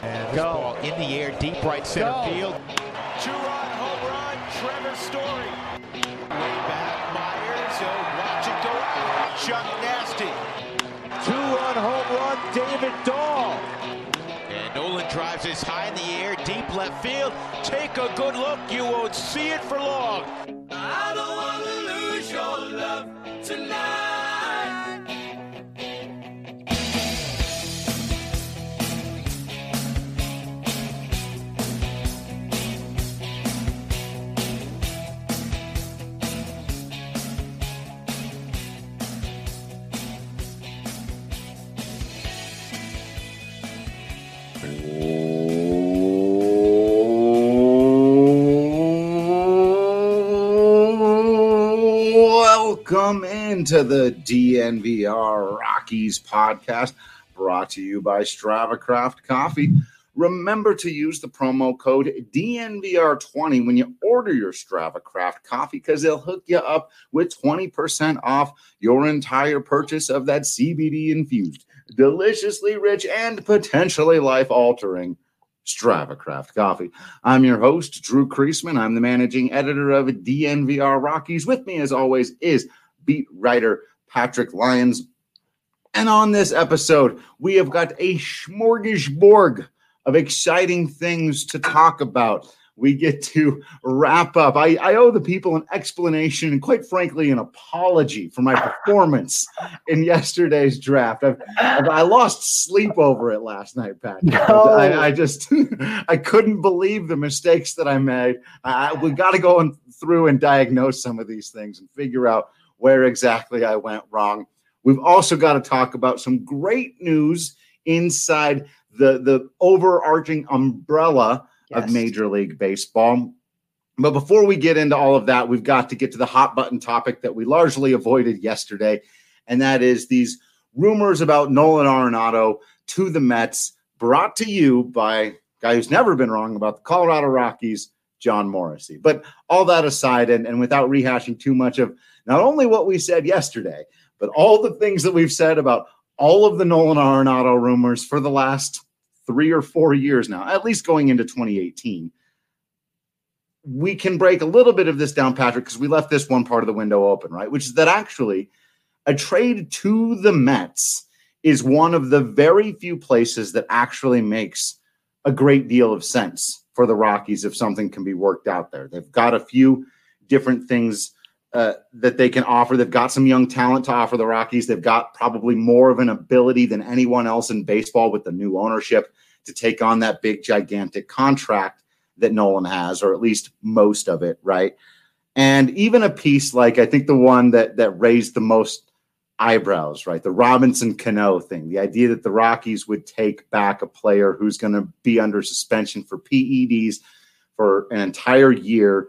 And this ball in the air, deep right center field. Two-run home run, Trevor Story. Way back, Myers. Watch it go out. Chuck Nasty. Two-run home run, David Dahl. And Nolan drives this high in the air, deep left field. Take a good look. You won't see it for long. I don't want to lose your love tonight. Welcome into the DNVR Rockies podcast, brought to you by StravaCraft Coffee. Remember to use the promo code DNVR20 when you order your StravaCraft coffee, because they'll hook you up with 20% off your entire purchase of that CBD-infused, deliciously rich, and potentially life-altering StravaCraft coffee. I'm your host, Drew Kreisman. I'm the managing editor of DNVR Rockies. With me, as always, is beat writer Patrick Lyons. And on this episode, we have got a smorgasbord of exciting things to talk about. We get to wrap up. I owe the people an explanation and, quite frankly, an apology for my performance in yesterday's draft. I lost sleep over it last night, Pat. No. I couldn't believe the mistakes that I made. We got to go through and diagnose some of these things and figure out where exactly I went wrong. We've also got to talk about some great news inside the overarching umbrella of Major League Baseball. But before we get into all of that, we've got to get to the hot button topic that we largely avoided yesterday, and that is these rumors about Nolan Arenado to the Mets, brought to you by a guy who's never been wrong about the Colorado Rockies, John Morrissey. But all that aside, and without rehashing too much of not only what we said yesterday, but all the things that we've said about all of the Nolan Arenado rumors for the last 3 or 4 years now, at least going into 2018, we can break a little bit of this down, Patrick, because we left this one part of the window open, right? Which is that actually a trade to the Mets is one of the very few places that actually makes a great deal of sense for the Rockies if something can be worked out there. They've got a few different things that they can offer. They've got some young talent to offer the Rockies. They've got probably more of an ability than anyone else in baseball with the new ownership to take on that big, gigantic contract that Nolan has, or at least most of it, right? And even a piece like, I think the one that raised the most eyebrows, right? The Robinson Cano thing, the idea that the Rockies would take back a player who's going to be under suspension for PEDs for an entire year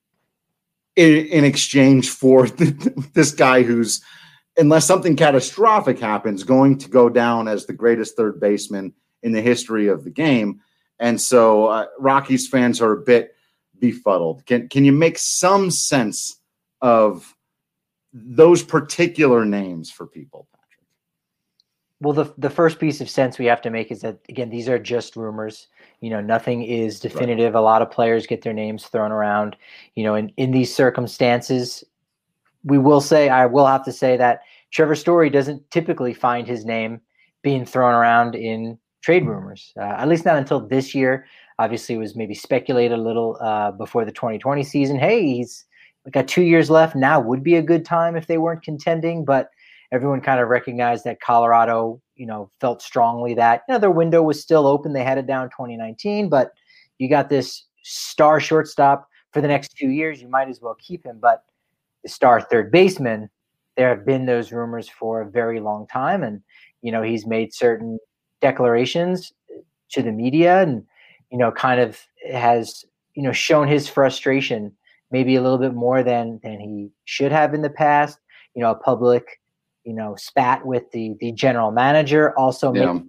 in exchange for this guy who's, unless something catastrophic happens, going to go down as the greatest third baseman in the history of the game. And so Rockies fans are a bit befuddled. Can you make some sense of those particular names for people, Patrick? Well, the first piece of sense we have to make is that, again, these are just rumors. Nothing is definitive. Right. A lot of players get their names thrown around. In these circumstances, I will have to say that Trevor Story doesn't typically find his name being thrown around in trade rumors, at least not until this year. Obviously, it was maybe speculated a little before the 2020 season. Hey, he's got 2 years left. Now would be a good time if they weren't contending, but everyone kind of recognized that Colorado, felt strongly that, their window was still open. They had it down 2019, but you got this star shortstop for the next 2 years. You might as well keep him. But the star third baseman, there have been those rumors for a very long time. And, he's made certain declarations to the media and, kind of has, shown his frustration maybe a little bit more than he should have in the past. A public spat with the general manager, also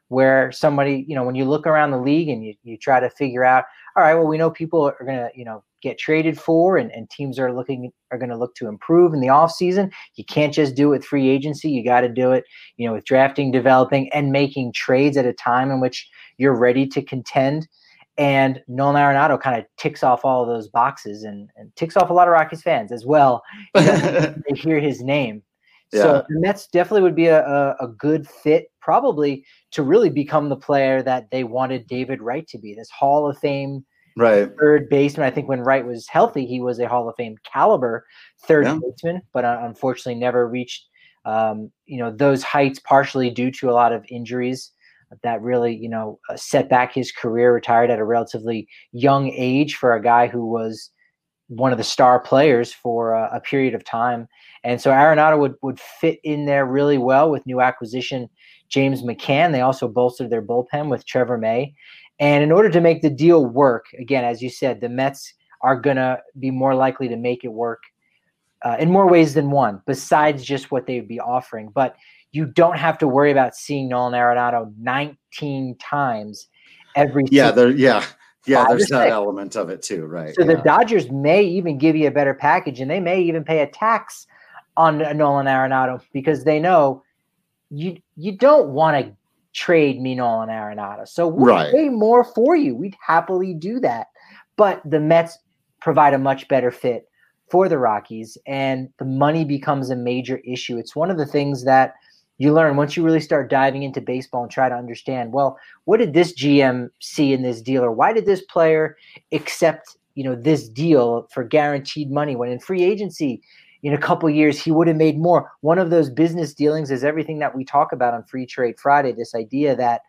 where somebody, when you look around the league and you try to figure out, all right, well, we know people are going to, get traded for and teams are going to look to improve in the offseason. You can't just do it with free agency. You got to do it, with drafting, developing, and making trades at a time in which you're ready to contend. And Nolan Arenado kind of ticks off all of those boxes and ticks off a lot of Rockies fans as well. They hear his name. Yeah. So the Mets definitely would be a good fit, probably, to really become the player that they wanted David Wright to be, this Hall of Fame third baseman. I think when Wright was healthy, he was a Hall of Fame caliber third baseman, but unfortunately never reached those heights, partially due to a lot of injuries that really set back his career. Retired at a relatively young age for a guy who was one of the star players for a period of time. And so Arenado would fit in there really well with new acquisition James McCann. They also bolstered their bullpen with Trevor May. And in order to make the deal work, again, as you said, the Mets are going to be more likely to make it work in more ways than one, besides just what they would be offering. But you don't have to worry about seeing Nolan Arenado 19 times every season. There's that element of it too, right? So the Dodgers may even give you a better package, and they may even pay a tax on Nolan Arenado because they know you don't want to trade me Nolan Arenado. So we'll pay more for you. We'd happily do that. But the Mets provide a much better fit for the Rockies, and the money becomes a major issue. It's one of the things that you learn once you really start diving into baseball and try to understand, well, what did this GM see in this deal, or why did this player accept, this deal for guaranteed money when in free agency in a couple of years he would have made more? One of those business dealings is everything that we talk about on Free Trade Friday, this idea that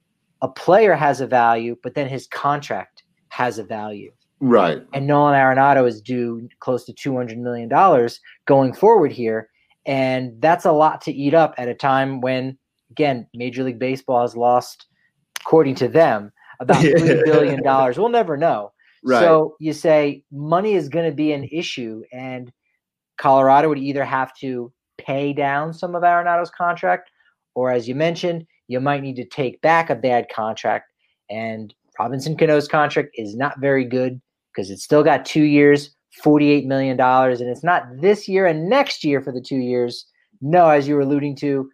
a player has a value, but then his contract has a value. Right. And Nolan Arenado is due close to $200 million going forward here. And that's a lot to eat up at a time when, again, Major League Baseball has lost, according to them, about $3 billion. We'll never know. Right. So you say money is going to be an issue, and Colorado would either have to pay down some of Arenado's contract, or as you mentioned, you might need to take back a bad contract. And Robinson Cano's contract is not very good because it's still got 2 years, $48 million, and it's not this year and next year for the 2 years. No, as you were alluding to,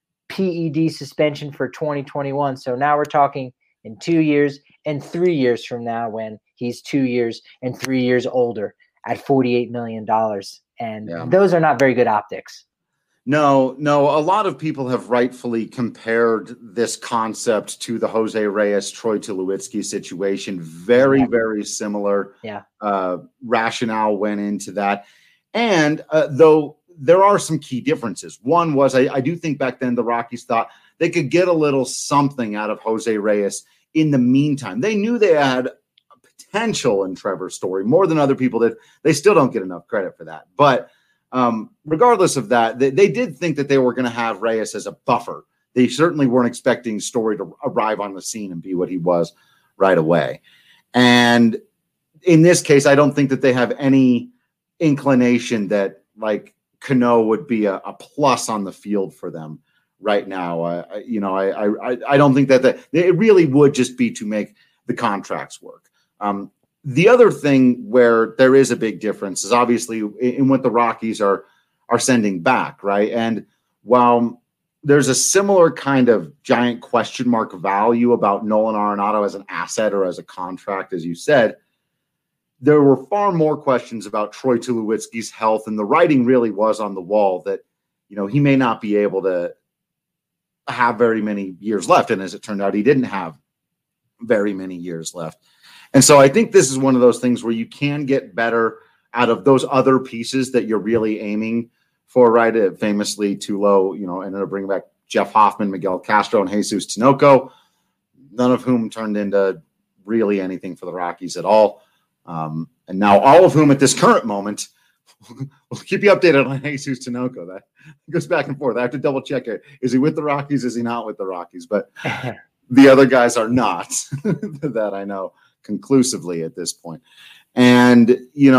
PED suspension for 2021. So now we're talking in 2 years and 3 years from now when he's 2 years and 3 years older at $48 million. And those are not very good optics. No. A lot of people have rightfully compared this concept to the Jose Reyes, Troy Tulowitzki situation. Very, very similar. Rationale went into that. And though there are some key differences. One was I do think back then the Rockies thought they could get a little something out of Jose Reyes in the meantime. They knew they had potential in Trevor Story more than other people did. They still don't get enough credit for that. But regardless of that, they did think that they were going to have Reyes as a buffer. They certainly weren't expecting Story to arrive on the scene and be what he was right away. And in this case, I don't think that they have any inclination that like Cano would be a plus on the field for them right now. I don't think that it really would just be to make the contracts work. The other thing where there is a big difference is obviously in what the Rockies are sending back, right? And while there's a similar kind of giant question mark value about Nolan Arenado as an asset or as a contract, as you said, there were far more questions about Troy Tulowitzki's health, and the writing really was on the wall that, he may not be able to have very many years left. And as it turned out, he didn't have very many years left. And so I think this is one of those things where you can get better out of those other pieces that you're really aiming for, right? Famously, Tulo, ended up bringing back Jeff Hoffman, Miguel Castro, and Jesus Tinoco, none of whom turned into really anything for the Rockies at all. And now all of whom at this current moment, we'll keep you updated on Jesus Tinoco. That goes back and forth. I have to double check it. Is he with the Rockies? Is he not with the Rockies? But the other guys are not that I know conclusively at this point. And,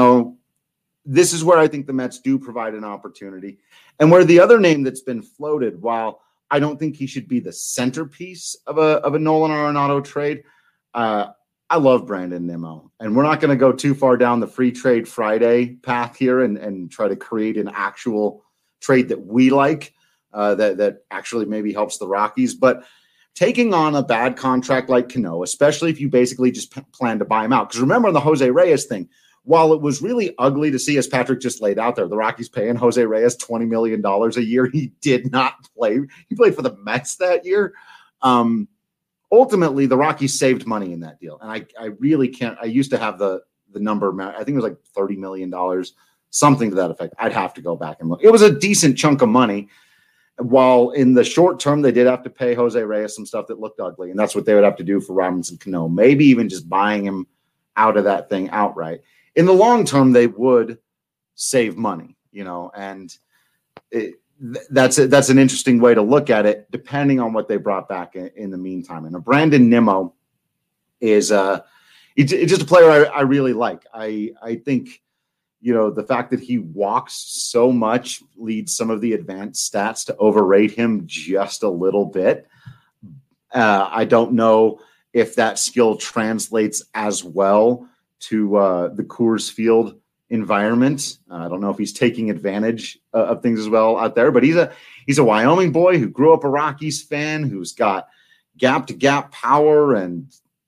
this is where I think the Mets do provide an opportunity. And where the other name that's been floated, while I don't think he should be the centerpiece of a Nolan Arenado trade. I love Brandon Nimmo, and we're not going to go too far down the free trade Friday path here and try to create an actual trade that we like that actually maybe helps the Rockies. But taking on a bad contract like Cano, especially if you basically just plan to buy him out. Because remember on the Jose Reyes thing, while it was really ugly to see, as Patrick just laid out there, the Rockies paying Jose Reyes $20 million a year. He did not play. He played for the Mets that year. Ultimately, the Rockies saved money in that deal. And I really can't. I used to have the number. I think it was like $30 million, something to that effect. I'd have to go back and look. It was a decent chunk of money. While in the short term, they did have to pay Jose Reyes some stuff that looked ugly. And that's what they would have to do for Robinson Cano. Maybe even just buying him out of that thing outright. In the long term, they would save money, and that's an interesting way to look at it, depending on what they brought back in the meantime. And Brandon Nimmo is he's just a player I really like. I think, the fact that he walks so much leads some of the advanced stats to overrate him just a little bit. I don't know if that skill translates as well to the Coors Field environment. I don't know if he's taking advantage of things as well out there, but he's a Wyoming boy who grew up a Rockies fan, who's got gap to gap power and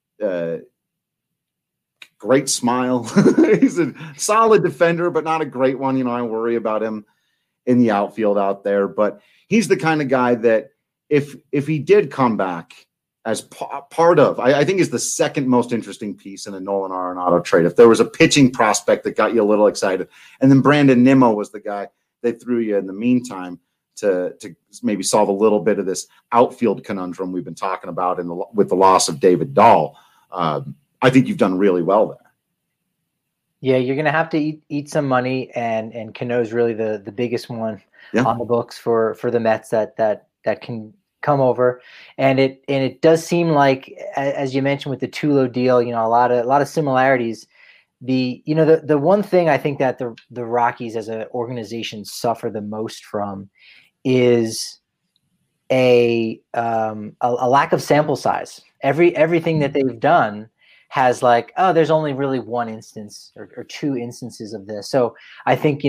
great smile. He's a solid defender, but not a great one. I worry about him in the outfield out there, but he's the kind of guy that if he did come back as part of, I think is the second most interesting piece in a Nolan Arenado trade. If there was a pitching prospect that got you a little excited, and then Brandon Nimmo was the guy they threw you in the meantime to maybe solve a little bit of this outfield conundrum we've been talking about with the loss of David Dahl. I think you've done really well there. Yeah, you're going to have to eat some money, and Cano's really the biggest one on the books for the Mets that can come over. And it does seem like, as you mentioned with the Tulo deal, a lot of similarities. The one thing I think that the Rockies as an organization suffer the most from is a lack of sample size. Everything that they've done has there's only really one instance or two instances of this. So I think,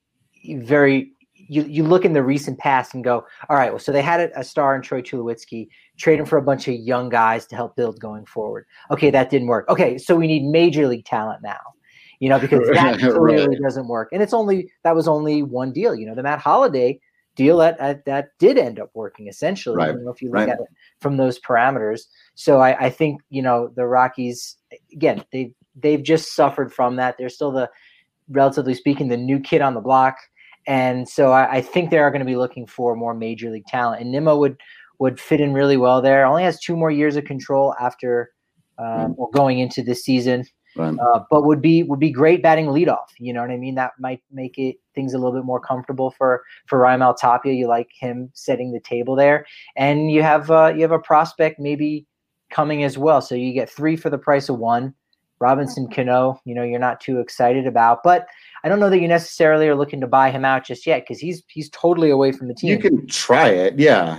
you look in the recent past and go, all right, well, so they had a star in Troy Tulowitzki, trade him for a bunch of young guys to help build going forward. Okay, that didn't work. Okay, so we need major league talent now, because that clearly doesn't work. And that was only one deal. The Matt Holliday deal that did end up working essentially, right. If you look at it from those parameters. So I think, the Rockies, again, they've just suffered from that. They're still relatively speaking, the new kid on the block. And so I think they are going to be looking for more major league talent. And Nimmo would fit in really well there. Only has 2 more years of control after or going into this season. Right. But would be great batting leadoff. You know what I mean? That might make things a little bit more comfortable for Raimel Tapia. You like him setting the table there. And you have a prospect maybe coming as well. So you get 3 for the price of 1. Robinson Cano, you're not too excited about, but I don't know that you necessarily are looking to buy him out just yet because he's totally away from the team. You can try it. Yeah.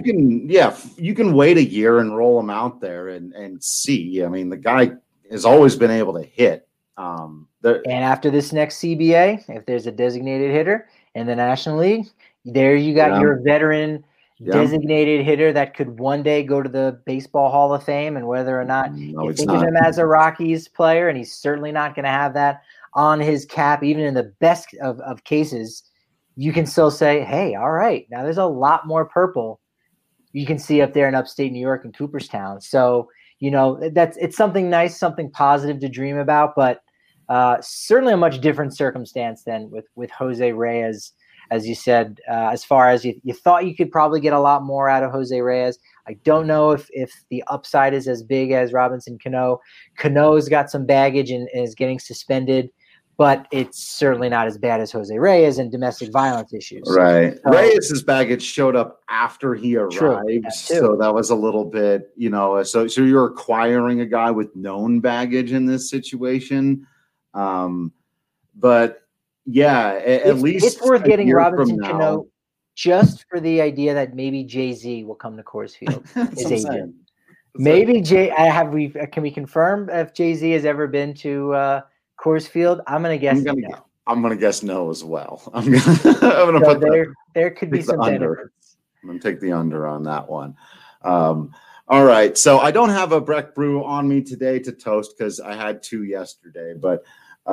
You can wait a year and roll him out there and see. I mean, the guy has always been able to hit. And after this next CBA, if there's a designated hitter in the National League, there you got your veteran designated hitter that could one day go to the Baseball Hall of Fame. And whether or not you think of him as a Rockies player, and he's certainly not going to have that on his cap, even in the best of cases, you can still say, hey, all right, now there's a lot more purple you can see up there in upstate New York and Cooperstown. So, it's something nice, something positive to dream about, but certainly a much different circumstance than with Jose Reyes. As you said, as far as you thought you could probably get a lot more out of Jose Reyes. I don't know if the upside is as big as Robinson Cano. Cano's got some baggage and is getting suspended, but it's certainly not as bad as Jose Reyes and domestic violence issues. Right. So, Reyes' baggage showed up after he arrived. So that was a little bit, so you're acquiring a guy with known baggage in this situation. But yeah, at least it's worth getting Robinson Cano. just for the idea that maybe Jay-Z will come to Coors Field. That's what I'm saying. Maybe can we confirm if Jay-Z has ever been to Coors Field? I'm going to guess no. I'm going to guess no as well. I'm going to put there could be some benefits. I'm going to take the under on that one. All right. So I don't have a Breck Brew on me today to toast because I had 2 yesterday, but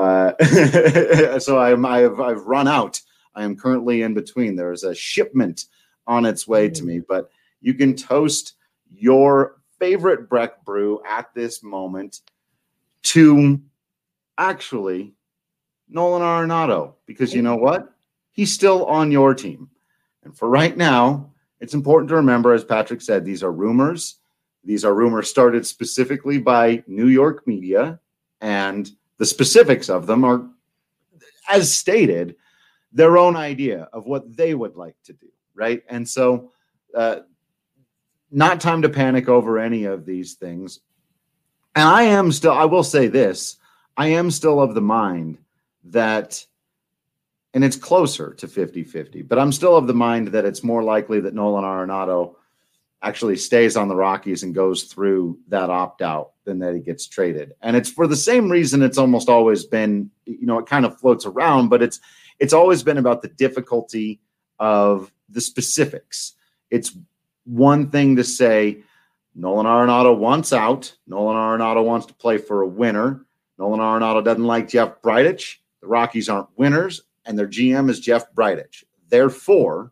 so I've run out. I am currently in between. There is a shipment on its way to me, but you can toast your favorite Breck Brew at this moment to actually Nolan Arenado, because you know what? He's still on your team. And for right now, it's important to remember, as Patrick said, these are rumors. These are rumors started specifically by New York media, and the specifics of them are, as stated, their own idea of what they would like to do, right? And so not time to panic over any of these things. And I will say this, I am still of the mind that, and it's closer to 50-50, but I'm still of the mind that it's more likely that Nolan Arenado actually stays on the Rockies and goes through that opt-out than that he gets traded. And it's for the same reason it's almost always been, it kind of floats around, but it's always been about the difficulty of the specifics. It's one thing to say Nolan Arenado wants out. Nolan Arenado wants to play for a winner. Nolan Arenado doesn't like Jeff Bridich. The Rockies aren't winners, and their GM is Jeff Bridich. Therefore,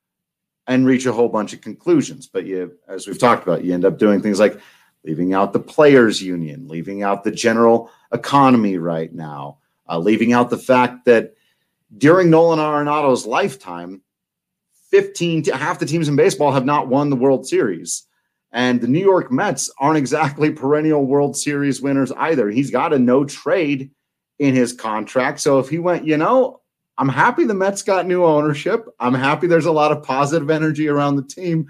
and reach a whole bunch of conclusions. But as we've talked about, you end up doing things like leaving out the players' union, leaving out the general economy right now, leaving out the fact that during Nolan Arenado's lifetime, half the teams in baseball have not won the World Series. And the New York Mets aren't exactly perennial World Series winners either. He's got a no trade in his contract. So if he went, I'm happy the Mets got new ownership. I'm happy there's a lot of positive energy around the team.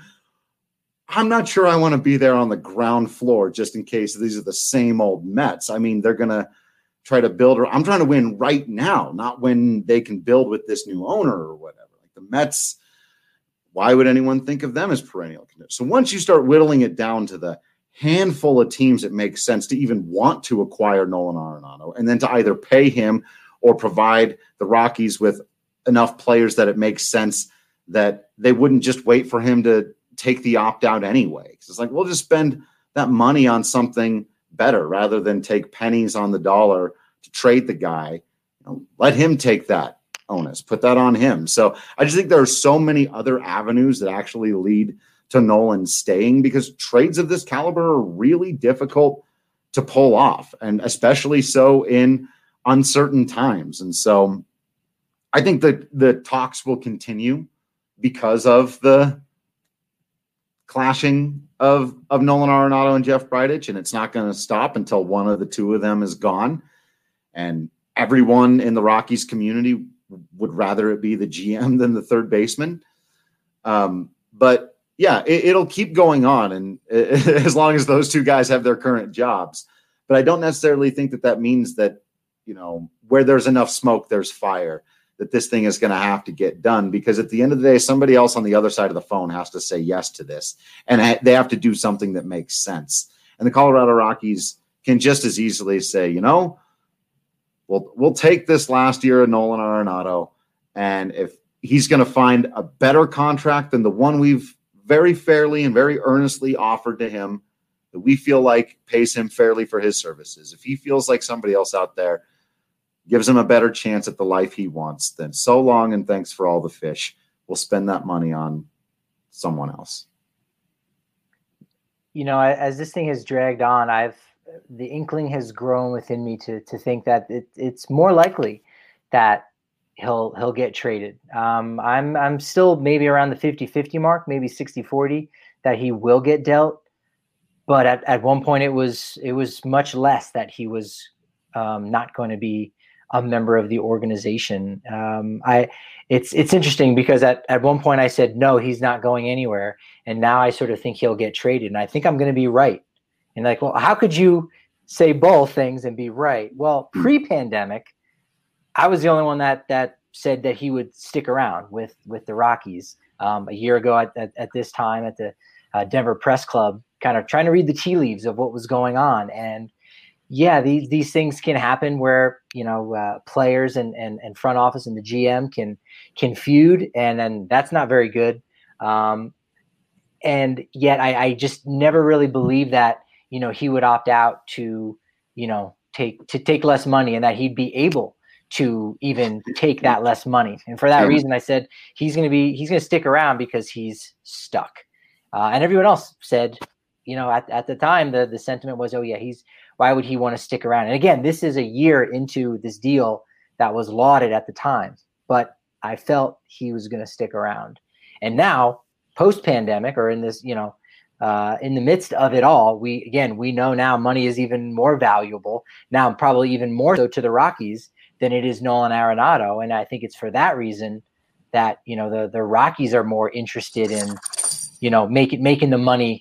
I'm not sure I want to be there on the ground floor just in case these are the same old Mets. I mean, they're going to try to build. I'm trying to win right now, not when they can build with this new owner or whatever. Like the Mets, why would anyone think of them as perennial contenders? So once you start whittling it down to the handful of teams it makes sense to even want to acquire Nolan Arenado, and then to either pay him or provide the Rockies with enough players that it makes sense that they wouldn't just wait for him to take the opt-out anyway. It's like, we'll just spend that money on something better rather than take pennies on the dollar to trade the guy. Let him take that onus, put that on him. So I just think there are so many other avenues that actually lead to Nolan staying, because trades of this caliber are really difficult to pull off, and especially so in uncertain times. And so I think that the talks will continue because of the clashing of Nolan Arenado and Jeff Bridich, and it's not going to stop until one of the two of them is gone. And everyone in the Rockies community would rather it be the GM than the third baseman. But yeah, it'll keep going on, and as long as those two guys have their current jobs. But I don't necessarily think that means that, where there's enough smoke, there's fire, that this thing is going to have to get done, because at the end of the day, somebody else on the other side of the phone has to say yes to this, and they have to do something that makes sense. And the Colorado Rockies can just as easily say, we'll take this last year of Nolan Arenado, and if he's going to find a better contract than the one we've very fairly and very earnestly offered to him, that we feel like pays him fairly for his services, if he feels like somebody else out there gives him a better chance at the life he wants, then so long and thanks for all the fish. We'll spend that money on someone else. As this thing has dragged on, the inkling has grown within me to think that it's more likely that he'll get traded. I'm still maybe around the 50-50 mark, maybe 60-40 that he will get dealt. But at one point it was much less that he was not going to be a member of the organization. It's interesting because at one point I said, no, he's not going anywhere. And now I sort of think he'll get traded. And I think I'm going to be right. And well, how could you say both things and be right? Well, pre-pandemic, I was the only one that said that he would stick around with the Rockies a year ago at this time at the Denver Press Club, kind of trying to read the tea leaves of what was going on. And yeah, these things can happen where, players and front office and the GM can feud, and then that's not very good. And yet I just never really believed that, he would opt out to, take less money, and that he'd be able to even take that less money. And for that reason, I said he's going to stick around because he's stuck. And everyone else said, at the time, the sentiment was, oh yeah, why would he want to stick around? And again, this is a year into this deal that was lauded at the time, but I felt he was going to stick around. And now, post-pandemic, or in this, in the midst of it all, we know now money is even more valuable now, probably even more so to the Rockies than it is Nolan Arenado. And I think it's for that reason that, the Rockies are more interested in, making the money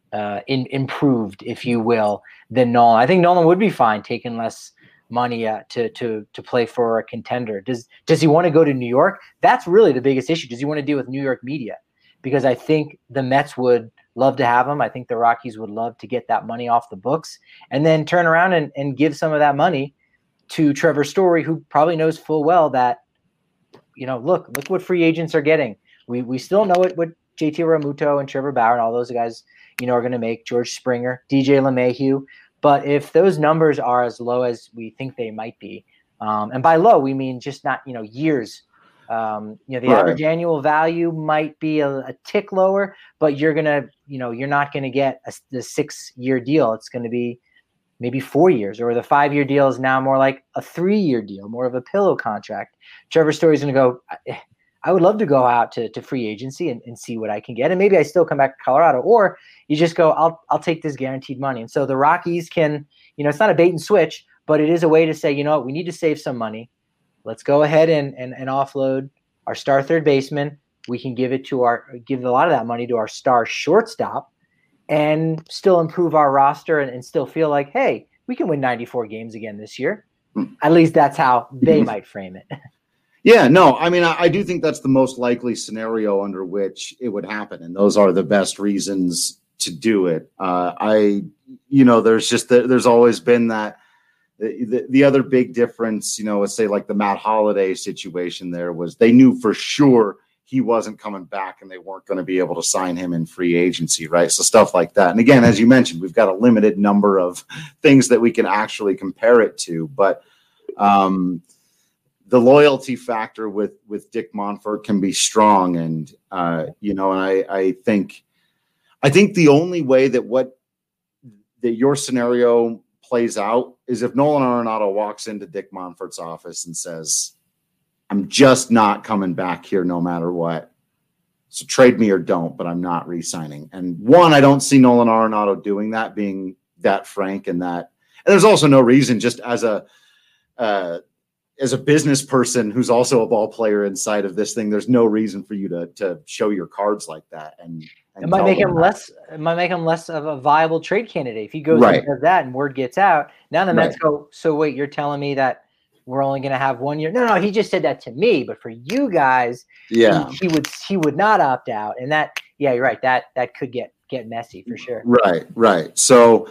improved, if you will, than Nolan. I think Nolan would be fine taking less money to play for a contender. Does he want to go to New York? That's really the biggest issue. Does he want to deal with New York media? Because I think the Mets would love to have him. I think the Rockies would love to get that money off the books and then turn around and give some of that money to Trevor Story, who probably knows full well that, look what free agents are getting. We still know what JT Realmuto and Trevor Bauer and all those guys, are going to make, George Springer, DJ LeMahieu. But if those numbers are as low as we think they might be, and by low, we mean just not, years. The average annual value might be a tick lower, but you're not going to get the 6-year deal. It's going to be maybe 4 years, or the 5-year deal is now more like a 3-year deal, more of a pillow contract. Trevor Story's going to go, I would love to go out to free agency and see what I can get. And maybe I still come back to Colorado, or you just go, I'll take this guaranteed money. And so the Rockies can, it's not a bait and switch, but it is a way to say, we need to save some money. Let's go ahead and offload our star third baseman. We can give a lot of that money to our star shortstop and still improve our roster and still feel like, hey, we can win 94 games again this year. At least that's how they might frame it. Yeah, no, I mean, I do think that's the most likely scenario under which it would happen. And those are the best reasons to do it. There's always been that. The other big difference, let's say like the Matt Holliday situation there, was they knew for sure he wasn't coming back and they weren't going to be able to sign him in free agency, right? So stuff like that. And again, as you mentioned, we've got a limited number of things that we can actually compare it to. But the loyalty factor with Dick Monfort can be strong. And, I think the only way that your scenario plays out is if Nolan Arenado walks into Dick Monfort's office and says, I'm just not coming back here no matter what. So trade me or don't, but I'm not re-signing. And I don't see Nolan Arenado doing that, being that frank and that. And there's also no reason, just as a business person who's also a ball player inside of this thing, there's no reason for you to show your cards like that. And it might make him less of a viable trade candidate if he goes and does that and word gets out. Now the Mets go, so wait, you're telling me that we're only going to have 1 year? No, he just said that to me, but for you guys, he would not opt out. And that, yeah, you're right. That could get messy for sure. Right. So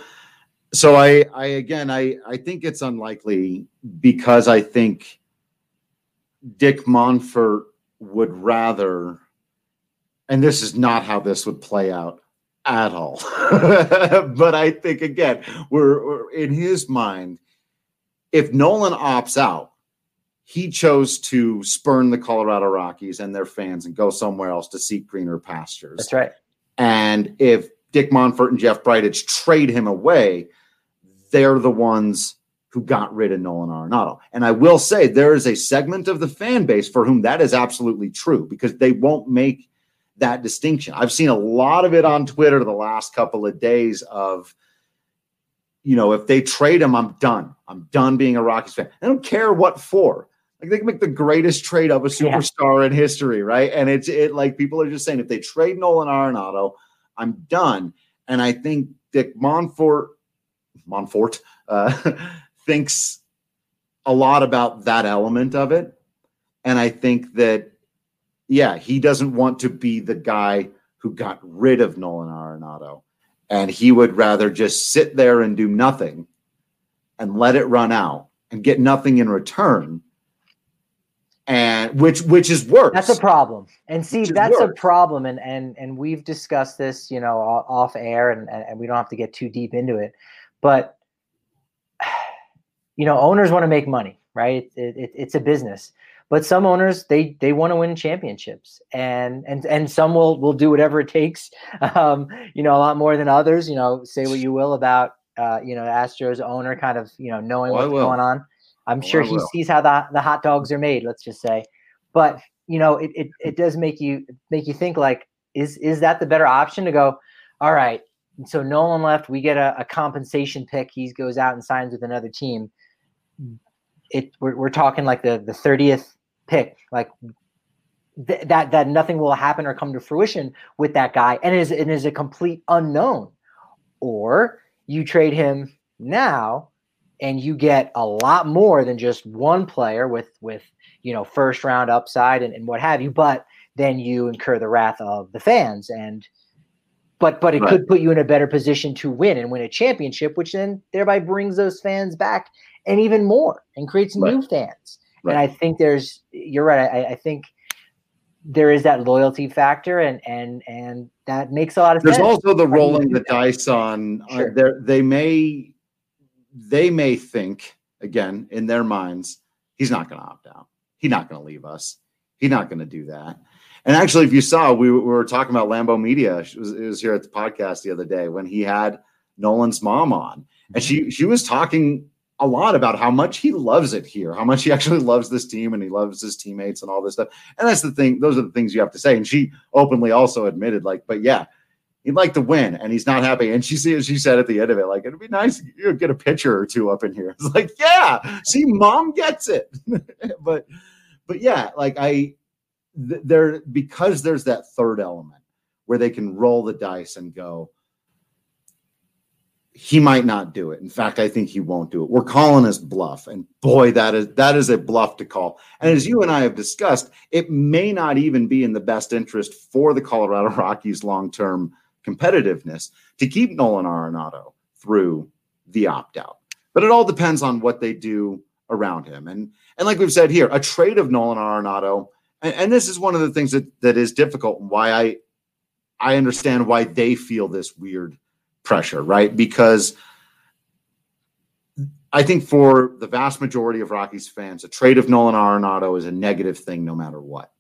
I think it's unlikely, because I think Dick Monfort would rather, and this is not how this would play out at all, but I think, again, we're in his mind, if Nolan opts out, he chose to spurn the Colorado Rockies and their fans and go somewhere else to seek greener pastures. That's right. And if Dick Monfort and Jeff Bridich trade him away, they're the ones who got rid of Nolan Arenado. And I will say there is a segment of the fan base for whom that is absolutely true, because they won't make that distinction. I've seen a lot of it on Twitter the last couple of days of, if they trade him, I'm done. I'm done being a Rockies fan. I don't care what for. Like, they can make the greatest trade of a superstar in history, right? And it's like, people are just saying, if they trade Nolan Arenado, I'm done. And I think Dick Monfort thinks a lot about that element of it. And I think that, yeah, he doesn't want to be the guy who got rid of Nolan Arenado. And he would rather just sit there and do nothing and let it run out and get nothing in return. And which is worse. That's a problem. And see, that's a problem. And we've discussed this, off air, and we don't have to get too deep into it. But, owners want to make money, right? It's a business. But some owners, they want to win championships, and some will do whatever it takes, a lot more than others. Say what you will about, Astros owner kind of, knowing what's going on. I'm sure he sees how the hot dogs are made, let's just say. But, it does make you think, like, is that the better option to go, all right, so Nolan left, we get a compensation pick, he goes out and signs with another team. We're talking like the 30th pick, like that nothing will happen or come to fruition with that guy, and it is a complete unknown. Or you trade him now and you get a lot more than just one player with first round upside and what have you, but then you incur the wrath of the fans, but it could put you in a better position to win a championship, which then thereby brings those fans back and even more and creates new fans. Right. And I think you're right. I think there is that loyalty factor, and that makes a lot of sense. There's also the rolling the dice on they may think, again, in their minds, he's not going to opt out. He's not going to leave us. He's not going to do that. And actually, if you saw, we were talking about Lambeau Media. It was here at the podcast the other day when he had Nolan's mom on. And she was talking a lot about how much he loves it here, how much he actually loves this team and he loves his teammates and all this stuff. And that's the thing. Those are the things you have to say. And she openly also admitted, like, but yeah, he'd like to win and he's not happy. And she said at the end of it, like, it'd be nice to get a picture or two up in here. It's like, yeah, see, mom gets it. but yeah, like because there's that third element where they can roll the dice and go, he might not do it. In fact, I think he won't do it. We're calling his bluff. And boy, that is a bluff to call. And as you and I have discussed, it may not even be in the best interest for the Colorado Rockies' long-term competitiveness to keep Nolan Arenado through the opt-out. But it all depends on what they do around him. And like we've said here, a trade of Nolan Arenado, and this is one of the things that is difficult and why I understand why they feel this weird pressure, right? Because I think for the vast majority of Rockies fans, a trade of Nolan Arenado is a negative thing no matter what.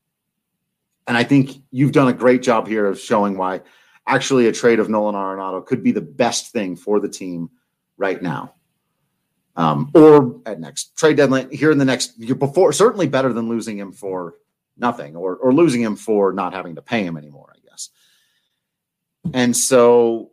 And I think you've done a great job here of showing why actually a trade of Nolan Arenado could be the best thing for the team right now. Or at next trade deadline here in the next year before, certainly better than losing him for nothing or losing him for not having to pay him anymore, I guess. And so,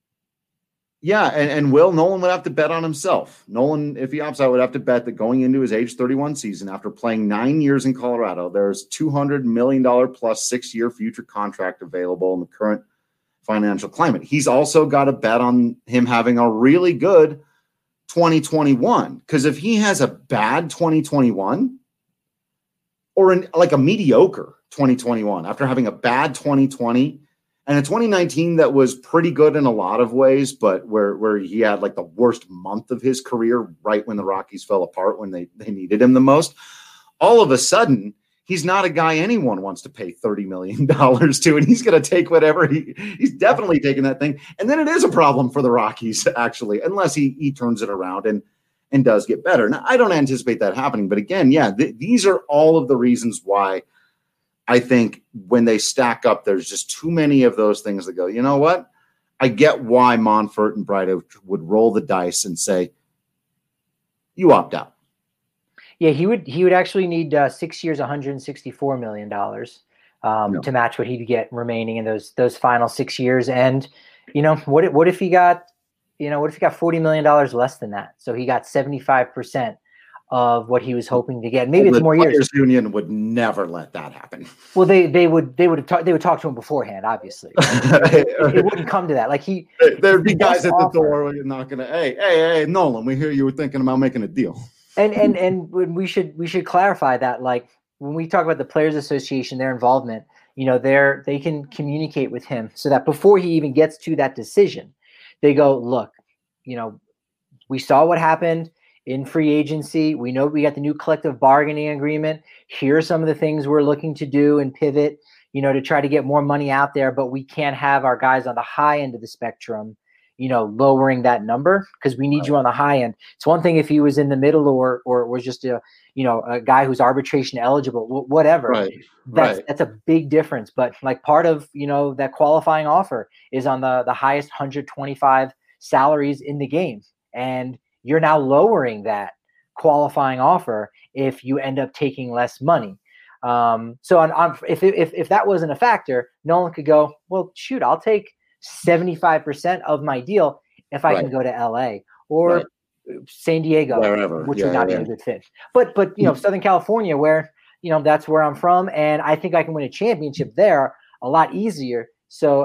yeah, and Nolan would have to bet on himself. Nolan, if he opts out, would have to bet that going into his age 31 season, after playing 9 years in Colorado, there's $200 million plus 6-year future contract available in the current financial climate. He's also got to bet on him having a really good 2021. Because if he has a bad 2021 or like a mediocre 2021 after having a bad 2020, and a 2019 that was pretty good in a lot of ways, but where he had like the worst month of his career right when the Rockies fell apart, when they needed him the most, all of a sudden, he's not a guy anyone wants to pay $30 million to, and he's going to take whatever he's definitely taking that thing. And then it is a problem for the Rockies, actually, unless he turns it around and does get better. Now, I don't anticipate that happening, but again, yeah, these are all of the reasons why I think when they stack up, there's just too many of those things that go, you know what? I get why Monfort and Bright would roll the dice and say, you opt out. Yeah, he would actually need 6 years, $164 million to match what he'd get remaining in those final 6 years. And, what if he got $40 million less than that? So he got 75% of what he was hoping to get. Maybe it's more years. The Players Union would never let that happen. Well, they would talk to him beforehand, obviously. It wouldn't come to that. Like there'd be guys at the door knocking. Hey, Nolan, we hear you were thinking about making a deal. And we should clarify that, like, when we talk about the Players Association, their involvement, they can communicate with him so that before he even gets to that decision, they go, look, we saw what happened in free agency. We know we got the new collective bargaining agreement. Here are some of the things we're looking to do and pivot, to try to get more money out there, but we can't have our guys on the high end of the spectrum, lowering that number, because we need you on the high end. It's one thing if he was in the middle or was just a guy who's arbitration eligible, whatever. That's a big difference. But like part of, that qualifying offer is on the highest 125 salaries in the game. And you're now lowering that qualifying offer if you end up taking less money. So if that wasn't a factor, Nolan could go, well, shoot, I'll take 75% of my deal if I can go to LA or San Diego, wherever, which would not be a good fit. But Southern California, where that's where I'm from, and I think I can win a championship there a lot easily. So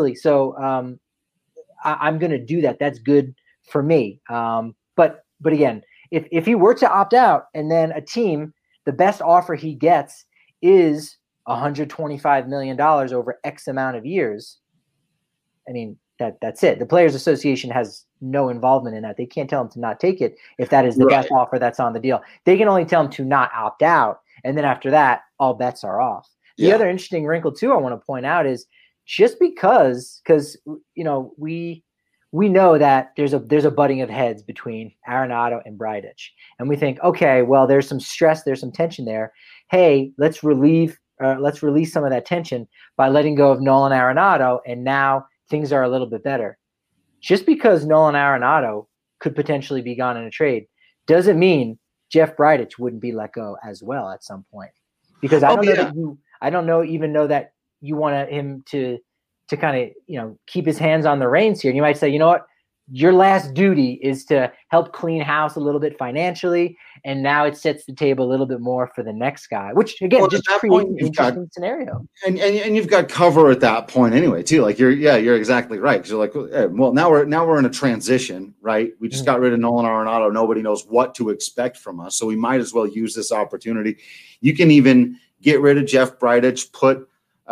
I'm going to do that. That's good for me. But again, if he were to opt out and then a team, the best offer he gets is $125 million over X amount of years, I mean, that's it. The Players Association has no involvement in that. They can't tell him to not take it if that is the best offer that's on the deal. They can only tell him to not opt out. And then after that, all bets are off. The other interesting wrinkle, too, I want to point out is just because we know that there's a butting of heads between Arenado and Bridich. And we think, okay, well, there's some stress, there's some tension there. Hey, let's release some of that tension by letting go of Nolan Arenado, and now things are a little bit better. Just because Nolan Arenado could potentially be gone in a trade doesn't mean Jeff Bridich wouldn't be let go as well at some point. Because I don't know that you want him to kind of, keep his hands on the reins here. And you might say, you know what, your last duty is to help clean house a little bit financially. And now it sets the table a little bit more for the next guy, which again, just creates an interesting scenario. And you've got cover at that point anyway, too. Like you're exactly right. Cause you're like, well, now we're in a transition, right? We just got rid of Nolan Arenado. Nobody knows what to expect from us. So we might as well use this opportunity. You can even get rid of Jeff Bridich, put,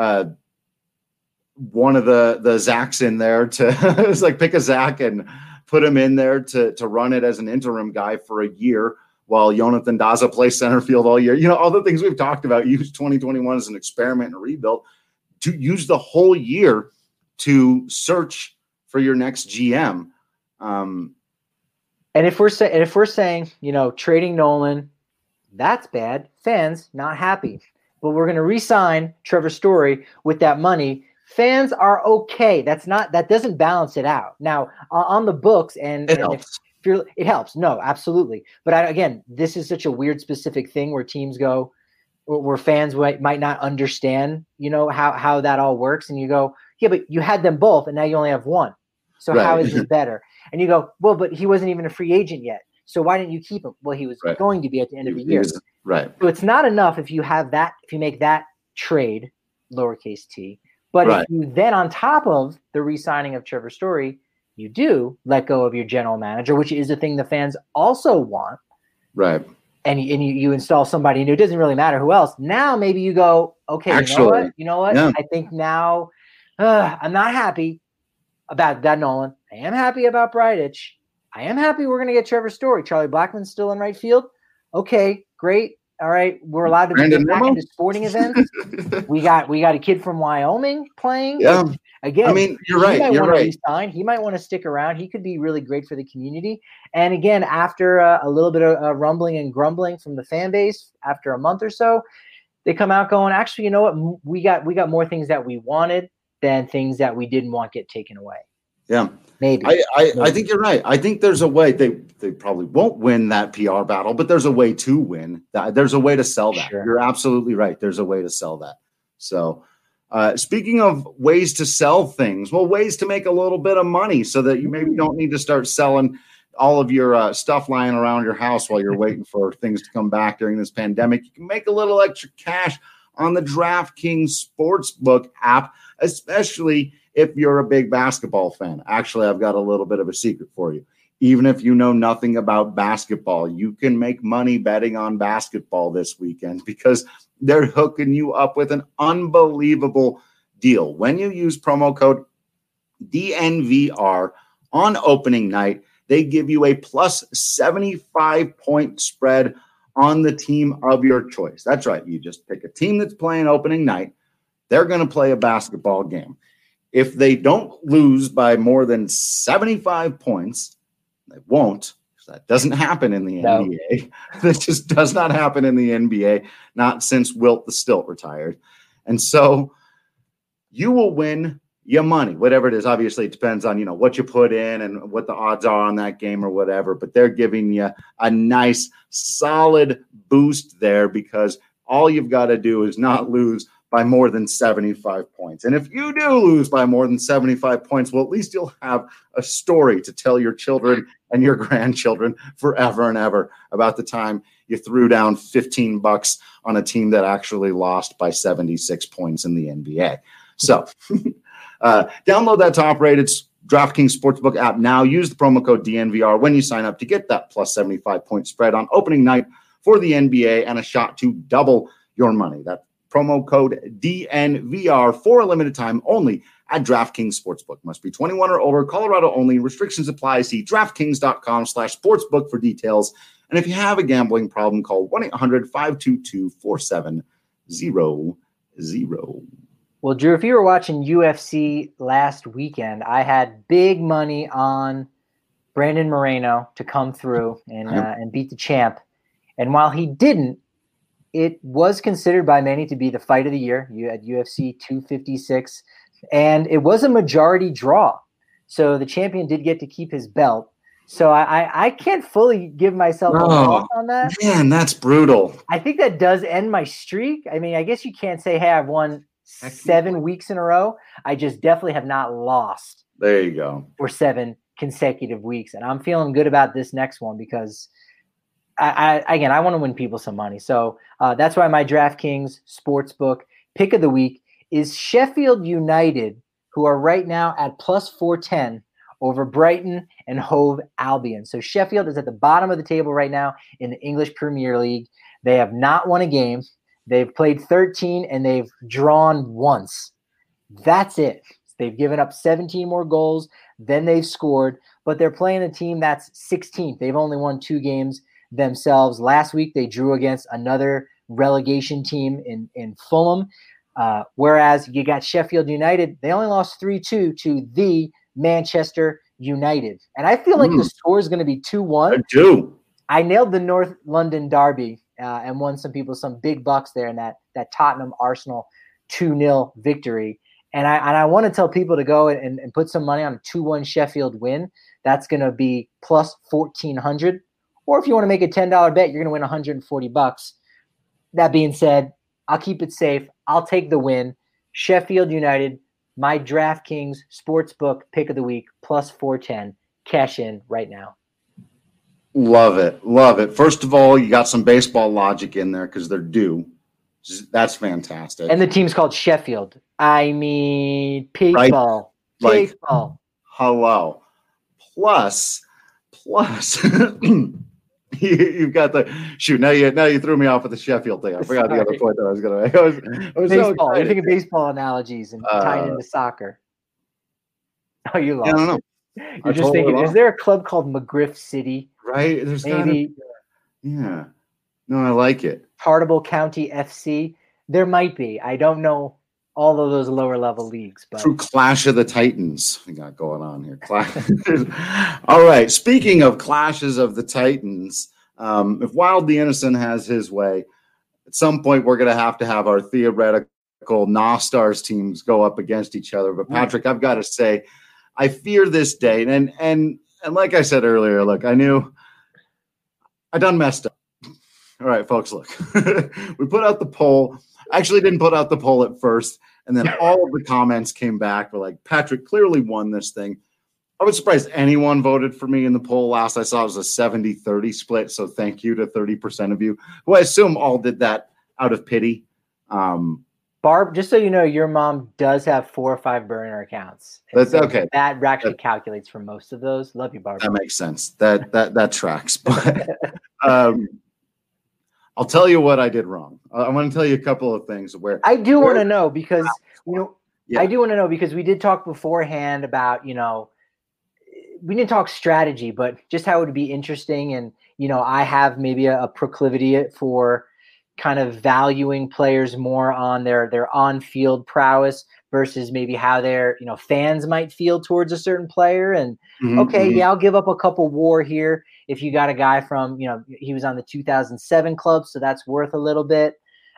one of the Zachs in there to it's like pick a Zach and put him in there to run it as an interim guy for a year while Jonathan Daza plays center field all year. All the things we've talked about, use 2021 as an experiment and a rebuild, to use the whole year to search for your next GM. And if we're saying, trading Nolan, that's bad. Fans not happy, but we're going to re-sign Trevor Story with that money. Fans are okay. That doesn't balance it out. Now on the books and it helps. No, absolutely. But again, this is such a weird specific thing where teams go, where fans might not understand, how that all works. And you go, yeah, but you had them both and now you only have one. So how is this better? And you go, well, but he wasn't even a free agent yet. So why didn't you keep him? Well, he was going to be at the end of the year. Right. So it's not enough if you make that trade, lowercase t. But if you then, on top of the re-signing of Trevor Story, you do let go of your general manager, which is a thing the fans also want. Right. And you install somebody new. It doesn't really matter who else. Now maybe you go, okay, you know what? Yeah. I think now I'm not happy about that Nolan. I am happy about Bridich. I am happy we're going to get Trevor Story. Charlie Blackmon's still in right field. Okay, great. All right, we're allowed to get back into sporting events. We got a kid from Wyoming playing. Yeah. Again, I mean, you're right. You're right. He might want to stick around. He could be really great for the community. And again, after a little bit of rumbling and grumbling from the fan base, after a month or so, they come out going, actually, you know what? We got more things that we wanted than things that we didn't want get taken away. Yeah. Maybe. I think you're right. I think there's a way. They probably won't win that PR battle, but there's a way to win that. There's a way to sell that. Sure. You're absolutely right. There's a way to sell that. So speaking of ways to sell things, ways to make a little bit of money so that you maybe don't need to start selling all of your stuff lying around your house while you're waiting for things to come back during this pandemic. You can make a little extra cash on the DraftKings Sportsbook app, especially if you're a big basketball fan. Actually, I've got a little bit of a secret for you. even if you know nothing about basketball, you can make money betting on basketball this weekend because they're hooking you up with an unbelievable deal. When you use promo code DNVR on opening night, they give you a plus 75-point spread on the team of your choice. That's right. You just pick a team that's playing opening night. They're going to play a basketball game. If they don't lose by more than 75 points, they won't. That doesn't happen in the NBA. That just does not happen in the NBA, not since Wilt the Stilt retired. And so you will win your money, whatever it is. Obviously, it depends on, what you put in and what the odds are on that game or whatever, but they're giving you a nice, solid boost there because all you've got to do is not lose by more than 75 points. And if you do lose by more than 75 points, well, at least you'll have a story to tell your children and your grandchildren forever and ever about the time you threw down $15 on a team that actually lost by 76 points in the NBA. So download that top-rated DraftKings Sportsbook app now. Use the promo code DNVR when you sign up to get that plus 75-point spread on opening night for the NBA and a shot to double your money. That promo code DNVR for a limited time only at DraftKings Sportsbook. Must be 21 or older, Colorado only. Restrictions apply. See DraftKings.com/sportsbook for details. And if you have a gambling problem, call 1-800-522-4700. Well, Drew, if you were watching UFC last weekend, I had big money on Brandon Moreno to come through and beat the champ. And while he didn't, it was considered by many to be the fight of the year. You had UFC 256, and it was a majority draw. So the champion did get to keep his belt. So I can't fully give myself a loss on that. Man, that's brutal. I think that does end my streak. I mean, I guess you can't say, hey, I've won 7 weeks in a row. I just definitely have not lost. There you go. For 7 consecutive weeks. And I'm feeling good about this next one because I want to win people some money. So that's why my DraftKings Sportsbook pick of the week is Sheffield United, who are right now at plus 410 over Brighton and Hove Albion. So Sheffield is at the bottom of the table right now in the English Premier League. They have not won a game. They've played 13 and they've drawn once. That's it. They've given up 17 more goals than they've scored, but they're playing a team that's 16th. They've only won 2 games themselves. Last week, they drew against another relegation team in Fulham, whereas you got Sheffield United. They only lost 3-2 to the Manchester United. And I feel like the score is going to be 2-1. I do. I nailed the North London derby and won some people some big bucks there in that Tottenham Arsenal 2-0 victory. And I want to tell people to go and put some money on a 2-1 Sheffield win. That's going to be plus 1,400. Or if you want to make a $10 bet, you're going to win $140. That being said, I'll keep it safe. I'll take the win. Sheffield United, my DraftKings Sportsbook pick of the week, plus 410. Cash in right now. Love it. Love it. First of all, you got some baseball logic in there because they're due. That's fantastic. And the team's called Sheffield. I mean, people. Right? People. Hello. Plus, you've got the shoot. Now you threw me off with the Sheffield thing. I forgot the other point that I was going to make. I was baseball. So You're thinking baseball analogies and tying into soccer. Oh, you lost. I don't know. You're just thinking, is there a club called McGriff City? Right? There's maybe. Yeah. No, I like it. Hartlepool County FC. There might be. I don't know all of those lower level leagues. But true Clash of the Titans we got going on here. All right. Speaking of clashes of the Titans, if Wild the Innocent has his way, at some point we're going to have our theoretical Nostars teams go up against each other. But Patrick, I've got to say, I fear this day. And like I said earlier, look, I knew I done messed up. All right, folks, look, we put out the poll. Actually didn't put out the poll at first. And then all of the comments came back. We're like, Patrick clearly won this thing. I was surprised anyone voted for me in the poll. Last I saw it was a 70-30 split. So thank you to 30% of you, who I assume all did that out of pity. Barb, just so you know, your mom does have 4 or 5 burner accounts. That's okay. That actually calculates for most of those. Love you, Barb. That makes sense. That tracks. But I'll tell you what I did wrong. I want to tell you a couple of things where I do want to know because Yeah. I do want to know because we did talk beforehand about, we didn't talk strategy, but just how it would be interesting. And, I have maybe a proclivity for kind of valuing players more on their on-field prowess versus maybe how their, fans might feel towards a certain player. And I'll give up a couple WAR here. If you got a guy from, he was on the 2007 club, so that's worth a little bit.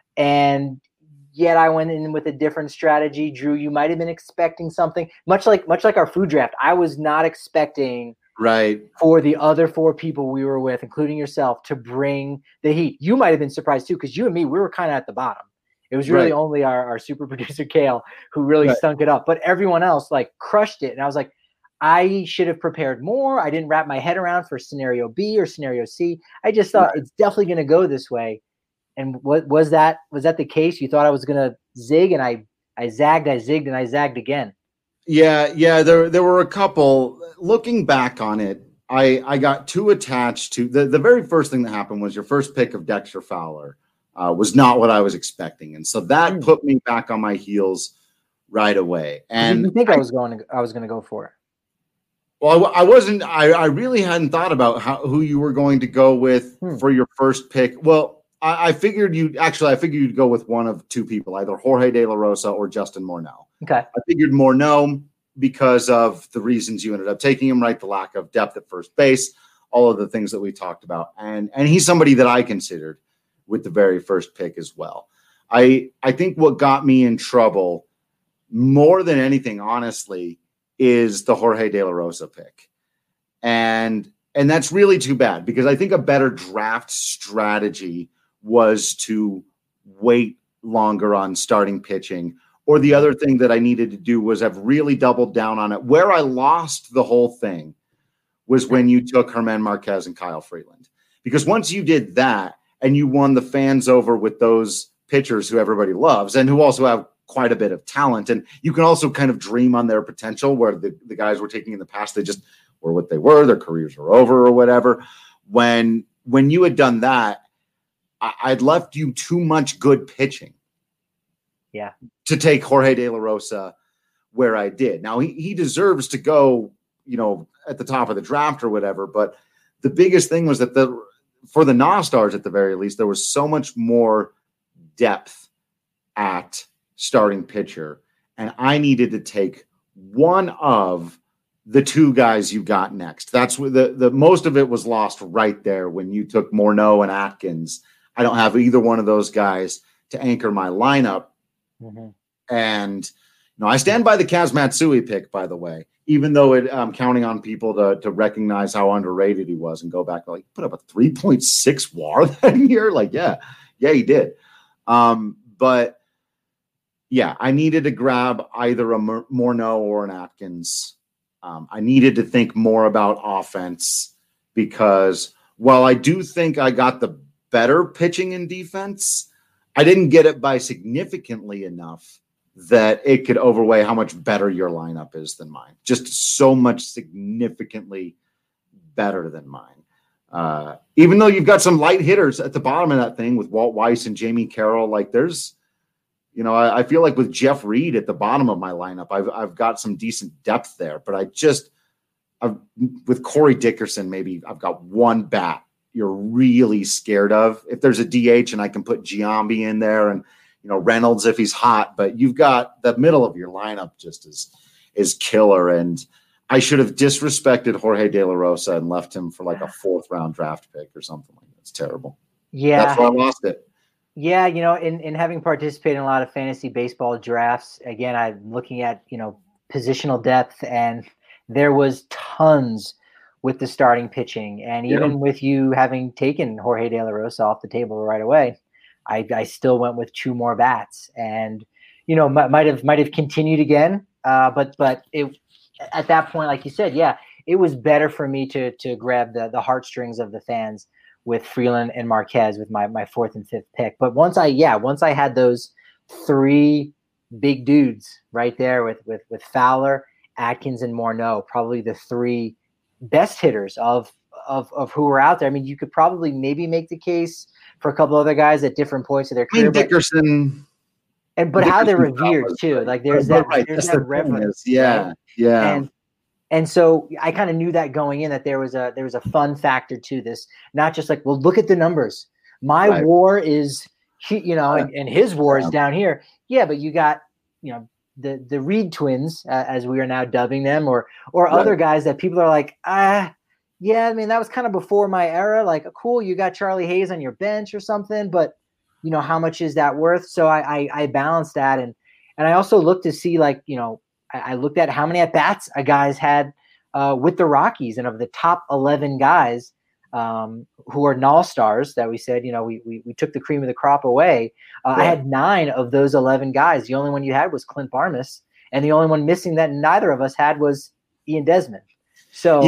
And yet I went in with a different strategy. Drew, you might have been expecting something much like our food draft. I was not expecting for the other 4 people we were with, including yourself, to bring the heat. You might have been surprised too, because you and me, we were kind of at the bottom. It was really only our super producer Kale who really stunk it up, but everyone else crushed it. And I was like, I should have prepared more. I didn't wrap my head around for scenario B or scenario C. I just thought it's definitely going to go this way. And what was that the case? You thought I was going to zig, and I zagged, I zigged, and I zagged again. Yeah. There were a couple. Looking back on it, I got too attached to the very first thing that happened was your first pick of Dexter Fowler was not what I was expecting, and so that put me back on my heels right away. And you think I was going to go for it? Well, I wasn't. I really hadn't thought about who you were going to go with for your first pick. Well, I figured you'd go with one of 2 people, either Jorge De La Rosa or Justin Morneau. Okay. I figured Morneau because of the reasons you ended up taking him, right? The lack of depth at first base, all of the things that we talked about. And he's somebody that I considered with the very first pick as well. I think what got me in trouble more than anything, honestly, is the Jorge De La Rosa pick. And that's really too bad, because I think a better draft strategy was to wait longer on starting pitching. Or the other thing that I needed to do was have really doubled down on it. Where I lost the whole thing was when you took Germán Marquez and Kyle Freeland. Because once you did that and you won the fans over with those pitchers who everybody loves and who also have quite a bit of talent, and you can also kind of dream on their potential, where the guys were taking in the past, they just were what they were, their careers were over or whatever. When you had done that, I'd left you too much good pitching. Yeah. To take Jorge De La Rosa where I did. Now he deserves to go, at the top of the draft or whatever. But the biggest thing was that for the Nostars, at the very least, there was so much more depth at starting pitcher, and I needed to take one of the 2 guys you got next. That's what the most of it was lost right there when you took Morneau and Atkins. I don't have either one of those guys to anchor my lineup. Mm-hmm. And I stand by the Kaz Matsui pick, by the way, even though I'm counting on people to recognize how underrated he was and go back, put up a 3.6 WAR that year. Yeah, he did. But yeah, I needed to grab either a Morneau or an Atkins. I needed to think more about offense, because while I do think I got the better pitching and defense, I didn't get it by significantly enough that it could overweigh how much better your lineup is than mine. Just so much significantly better than mine. Even though you've got some light hitters at the bottom of that thing with Walt Weiss and Jamie Carroll, there's, I feel like with Jeff Reed at the bottom of my lineup, I've got some decent depth there. But with Corey Dickerson, maybe I've got one bat you're really scared of. If there's a DH and I can put Giambi in there and, Reynolds if he's hot, but you've got the middle of your lineup just is killer. And I should have disrespected Jorge De La Rosa and left him for a 4th round draft pick or something like that. It's terrible. Yeah. That's why I lost it. Yeah. In having participated in a lot of fantasy baseball drafts, again, I'm looking at, positional depth, and there was tons with the starting pitching. And even with you having taken Jorge De La Rosa off the table right away, I still went with 2 more bats, and, might have continued again. But it, at that point, like you said, it was better for me to grab the heartstrings of the fans with Freeland and Marquez with my 4th and 5th pick. But once I had those three big dudes right there with Fowler, Atkins, and Morneau, probably the three best hitters of who were out there. I mean, you could probably maybe make the case for a couple other guys at different points of their career. Dickerson. But how they're revered too. Like there's that reverence. Yeah. Right? Yeah. And so I kind of knew that going in, that there was a fun factor to this, not just like, well, look at the numbers. My war is, and his war is down here. Yeah, but you got, the Reed twins, as we are now dubbing them, or other guys that people are like, yeah, I mean, that was kind of before my era. Like, cool, you got Charlie Hayes on your bench or something, but how much is that worth? So I balanced that, and I also looked to see, like, I looked at how many at bats a guys had with the Rockies, and of the top 11 guys who are null stars that we said, we took the cream of the crop away. I had 9 of those 11 guys. The only one you had was Clint Barnes, and the only one missing that neither of us had was Ian Desmond. So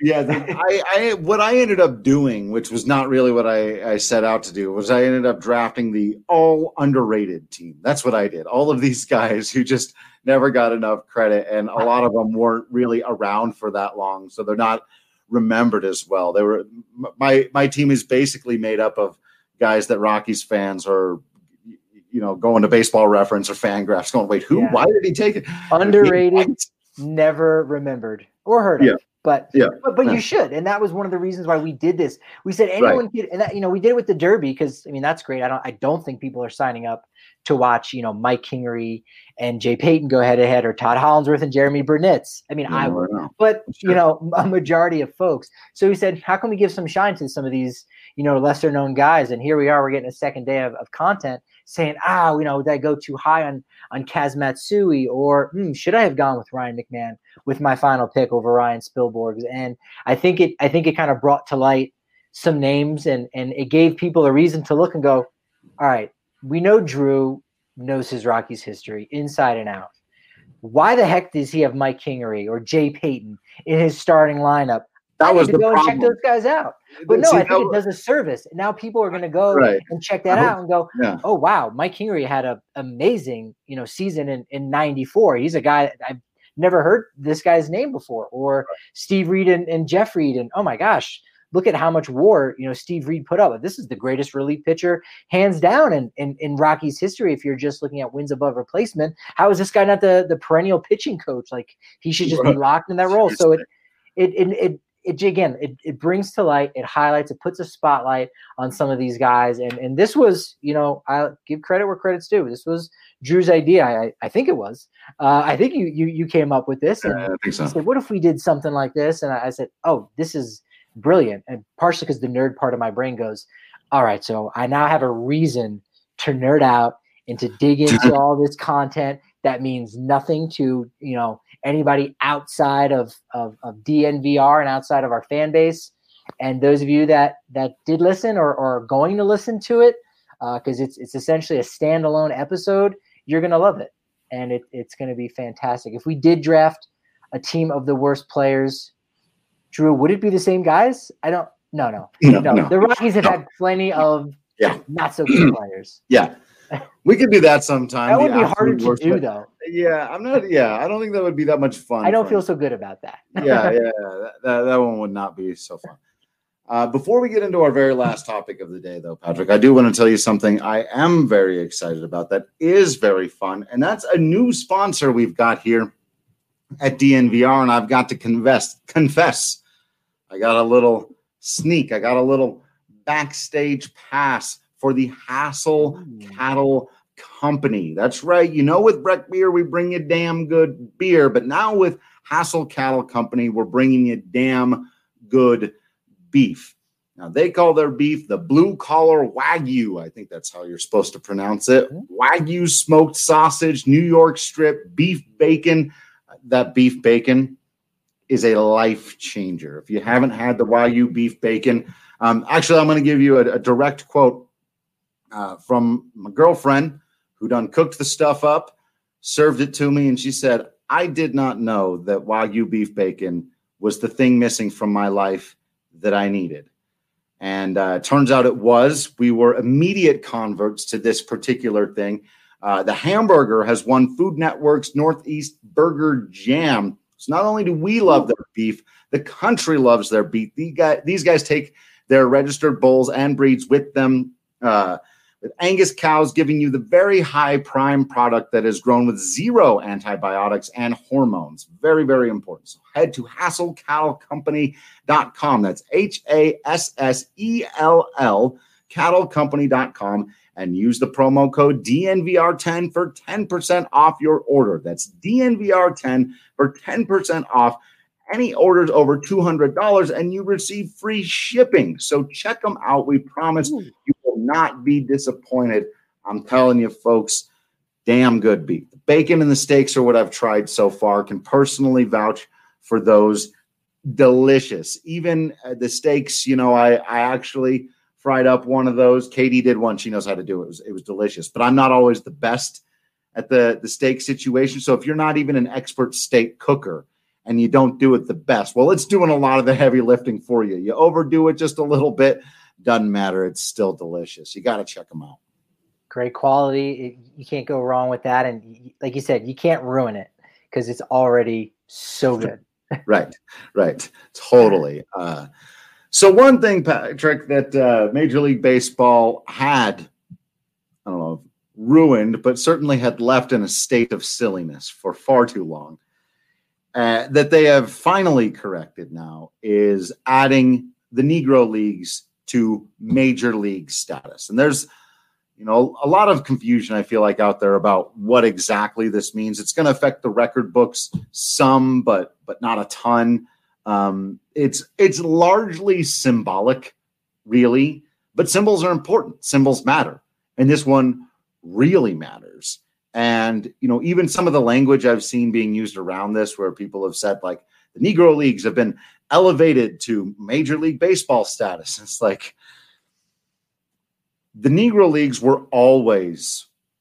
what I ended up doing, which was not really what I set out to do, was I ended up drafting the all underrated team. That's what I did. All of these guys who just never got enough credit, and a lot of them weren't really around for that long, so they're not remembered as well. They were my team is basically made up of guys that Rockies fans are, going to Baseball Reference or Fangraphs going, wait, who? Yeah. Why did he take it? Underrated, never remembered or heard of. But you should, and that was one of the reasons why we did this. We said anyone could, and that, we did it with the Derby because that's great. I don't think people are signing up to watch Mike Kingery and Jay Payton go head to head, or Todd Hollandsworth and Jeremy Burnitz. I would, but a majority of folks. So we said, how can we give some shine to some of these lesser known guys? And here we are. We're getting a second day of content saying, did I go too high on Kaz Matsui, or should I have gone with Ryan McMahon with my final pick over Ryan Spilborghs? And I think it kind of brought to light some names, and it gave people a reason to look and go, all right, we know Drew knows his Rockies history inside and out. Why the heck does he have Mike Kingery or Jay Payton in his starting lineup? That was the go problem. And check those guys out. But I think it does a service. Now people are going to go and check that out and go, oh, wow, Mike Kingery had an amazing, season in 94. He's a guy I've never heard this guy's name before. Or Steve Reed and Jeff Reed. And, oh, my gosh, look at how much WAR, Steve Reed put up. This is the greatest relief pitcher, hands down, in Rockies history. If you're just looking at wins above replacement, how is this guy not the perennial pitching coach? Like, he should just be locked in that role. So it brings to light, it highlights, it puts a spotlight on some of these guys. And this was, I'll give credit where credit's due. This was Drew's idea. I think it was. I think you came up with this. And I think so. He said, what if we did something like this? And I said, oh, this is brilliant. And partially because the nerd part of my brain goes, all right, so I now have a reason to nerd out and to dig into all this content that means nothing to, anybody outside of DNVR and outside of our fan base. And those of you that did listen or are going to listen to it, because it's essentially a standalone episode, you're going to love it. And it's going to be fantastic. If we did draft a team of the worst players, Drew, would it be the same guys? No. The Rockies have had plenty of not so good players. Yeah. We could do that sometime. That would be harder to do, though. Yeah, I don't think that would be that much fun. I don't feel so good about that. That one would not be so fun. Before we get into our very last topic of the day, though, Patrick, I do want to tell you something I am very excited about that is very fun, and that's a new sponsor we've got here at DNVR, and I've got to confess, I got a little sneak. I got a little backstage pass for the Hassel Cattle Company. That's right. With Breck Beer, we bring you damn good beer, but now with Hassel Cattle Company, we're bringing you damn good beef. Now, they call their beef the Blue Collar Wagyu. I think that's how you're supposed to pronounce it. Wagyu smoked sausage, New York strip, beef bacon. That beef bacon is a life changer. If you haven't had the Wagyu beef bacon, actually, I'm going to give you a direct quote from my girlfriend who done cooked the stuff up, served it to me, and she said, I did not know that Wagyu beef bacon was the thing missing from my life that I needed. And turns out it was. We were immediate converts to this particular thing. The hamburger has won Food Network's Northeast Burger Jam. So not only do we love their beef, the country loves their beef. These guys take their registered bulls and breeds with them, with Angus cows giving you the very high prime product that is grown with zero antibiotics and hormones. Very, very important. So head to HassellCattleCompany.com. That's HASSELL, cattlecompany.com, and use the promo code DNVR10 for 10% off your order. That's DNVR10 for 10% off any orders over $200, and you receive free shipping. So check them out. We promise you will not be disappointed. I'm telling you, folks, damn good beef. The bacon and the steaks are what I've tried so far. Can personally vouch for those. Delicious. Even the steaks, I actually fried up one of those. Katie did one. She knows how to do it. It was delicious. But I'm not always the best at the steak situation. So if you're not even an expert steak cooker and you don't do it the best, well, it's doing a lot of the heavy lifting for you. You overdo it just a little bit, doesn't matter. It's still delicious. You got to check them out. Great quality. You can't go wrong with that. And like you said, you can't ruin it because it's already so good. Right. Totally. So one thing, Patrick, that Major League Baseball had, I don't know, ruined, but certainly had left in a state of silliness for far too long, that they have finally corrected now is adding the Negro Leagues to Major League status. And there's, a lot of confusion, I feel like, out there about what exactly this means. It's going to affect the record books some, but not a ton. It's largely symbolic, really, but symbols are important. Symbols matter. And this one really matters. And, even some of the language I've seen being used around this, where people have said, like, the Negro Leagues have been elevated to Major League Baseball status. It's like, the Negro Leagues were always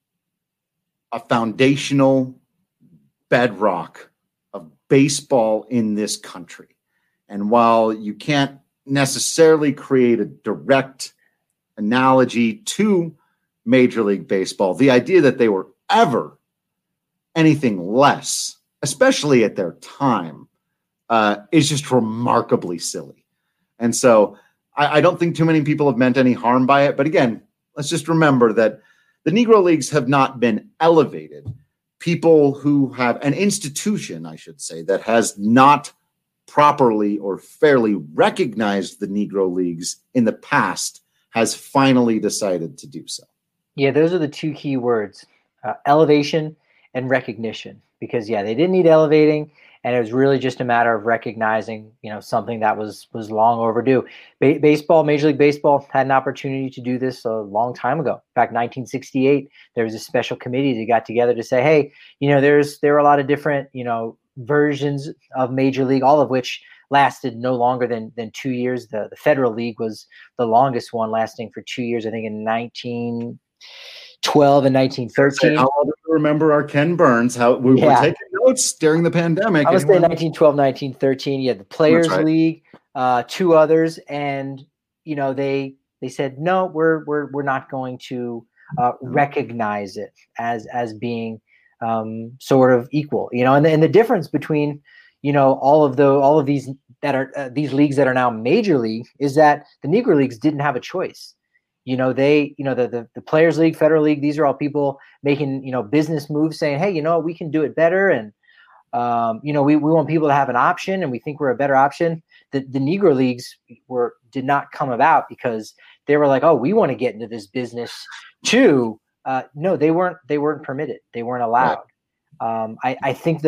a foundational bedrock of baseball in this country. And while you can't necessarily create a direct analogy to Major League Baseball, the idea that they were ever anything less, especially at their time, is just remarkably silly. And so I don't think too many people have meant any harm by it. But again, let's just remember that the Negro Leagues have not been elevated. People who have an institution, I should say, that has not properly or fairly recognized the Negro Leagues in the past has finally decided to do so. Yeah, those are the two key words, elevation and recognition, because, they didn't need elevating. And it was really just a matter of recognizing, something that was long overdue. Baseball, Major League Baseball had an opportunity to do this a long time ago. In fact, 1968, there was a special committee that got together to say, hey, there were a lot of different, versions of Major League, all of which lasted no longer than 2 years. The Federal League was the longest one, lasting for 2 years, I think in 1912 and 1913. I'll remember our Ken Burns, how we were taking notes during the pandemic. I was saying 1912, 1913. Yeah, the Players League, two others, and they said no, we're not going to recognize it as being sort of equal. And the difference between all of these that are these leagues that are now Major League is that the Negro Leagues didn't have a choice. The Players League, Federal League, these are all people making, business moves saying, hey, we can do it better. And, we want people to have an option and we think we're a better option. The Negro Leagues did not come about because they were like, oh, we want to get into this business too. No, they weren't permitted. They weren't allowed. Right. I think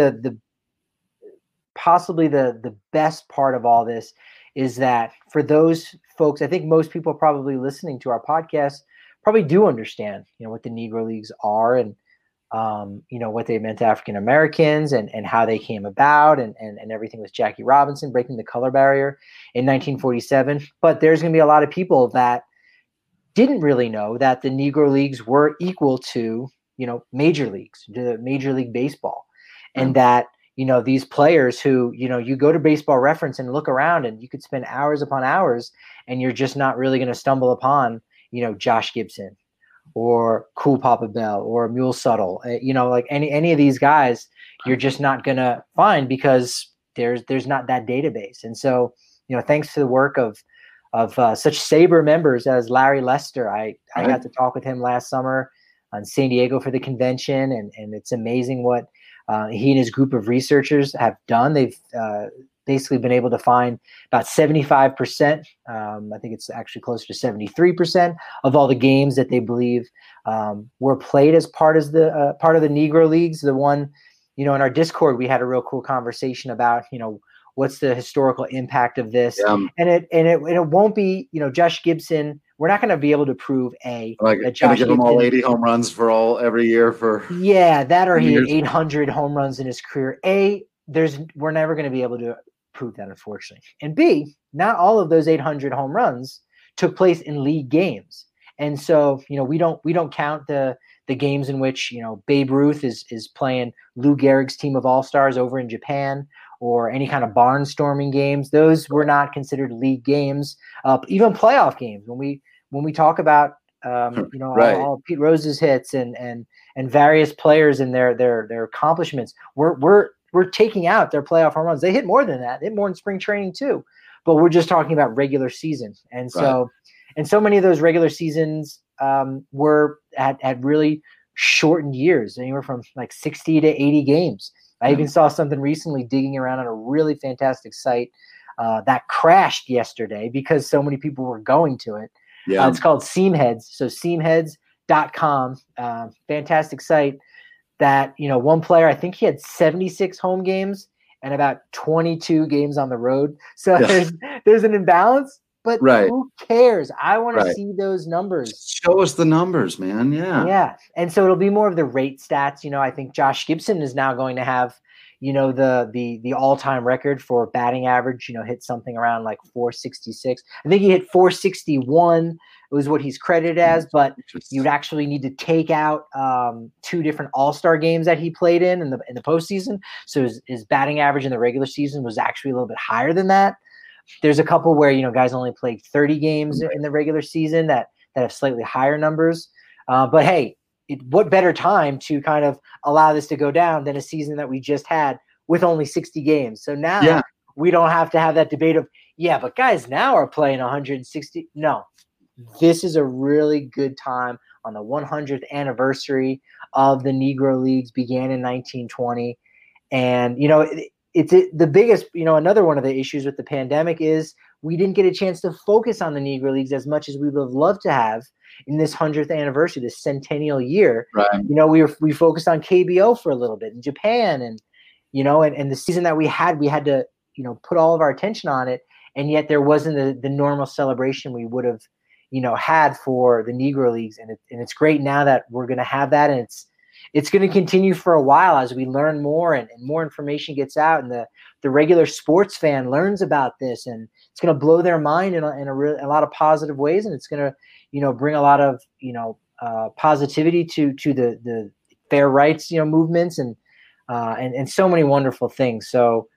possibly the best part of all this is that for those folks, I think most people probably listening to our podcast probably do understand, what the Negro Leagues are and, what they meant to African Americans and how they came about and everything with Jackie Robinson breaking the color barrier in 1947. But there's going to be a lot of people that didn't really know that the Negro Leagues were equal to, Major Leagues, to Major League Baseball, and that, these players who, you go to Baseball Reference and look around and you could spend hours upon hours and you're just not really going to stumble upon, Josh Gibson or Cool Papa Bell or Mule Subtle. Like any of these guys, you're just not going to find because there's not that database. And so, thanks to the work of such Sabre members as Larry Lester, I got to talk with him last summer on San Diego for the convention, and it's amazing what he and his group of researchers have done. They've basically been able to find about 75%. I think it's actually closer to 73% of all the games that they believe were played as part of the Negro Leagues. The one, in our Discord, we had a real cool conversation about, what's the historical impact of this, and it won't be, Josh Gibson. We're not going to be able to prove that Josh give him all 80 home runs every year for that, or he had 800 home runs in his career. We're never going to be able to prove that, unfortunately. And B, not all of those 800 home runs took place in league games, and so we don't count the games in which Babe Ruth is playing Lou Gehrig's team of all-stars over in Japan, or any kind of barnstorming games. Those were not considered league games. Even playoff games. When we talk about all Pete Rose's hits and various players and their accomplishments, we're taking out their playoff home runs. They hit more than that. They hit more in spring training too. But we're just talking about regular season. And so so many of those regular seasons were at really shortened years, anywhere from like 60 to 80 games. I even saw something recently digging around on a really fantastic site that crashed yesterday because so many people were going to it. Yeah. It's called Seamheads. So seamheads.com, fantastic site that, one player, I think he had 76 home games and about 22 games on the road. So there's an imbalance, but who cares? I want to see those numbers. Show us the numbers, man. Yeah. Yeah. And so it'll be more of the rate stats. I think Josh Gibson is now going to have, the all-time record for batting average, hit something around like 466. I think he hit 461 was what he's credited as, but you'd actually need to take out 2 different all-star games that he played in the postseason. So his batting average in the regular season was actually a little bit higher than that. There's a couple where, guys only played 30 games in the regular season that have slightly higher numbers. But hey, what better time to kind of allow this to go down than a season that we just had with only 60 games. So now we don't have to have that debate of, but guys now are playing 160. No, this is a really good time on the 100th anniversary of the Negro Leagues, began in 1920. And, it's the biggest, another one of the issues with the pandemic is we didn't get a chance to focus on the Negro Leagues as much as we would have loved to have in this 100th anniversary, this centennial year. Right. We focused on KBO for a little bit in Japan, and and the season that we had to put all of our attention on it, and yet there wasn't the normal celebration we would have had for the Negro Leagues, and it's great now that we're going to have that, and it's going to continue for a while as we learn more and more information gets out, and the regular sports fan learns about this, and it's going to blow their mind in a lot of positive ways, and it's going to bring a lot of positivity to the fair rights movements and so many wonderful things. So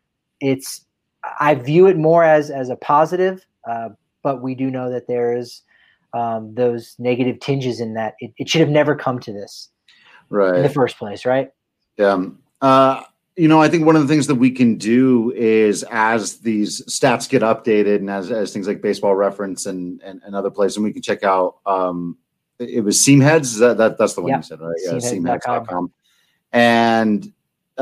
I view it more as a positive, but we do know that there is those negative tinges in that it should have never come to this. Right. In the first place, right? Yeah. I think one of the things that we can do is, as these stats get updated and as things like Baseball Reference and other places, and we can check out, it was Seamheads. That's the one you said, right? Yeah, Seamheads.com. And,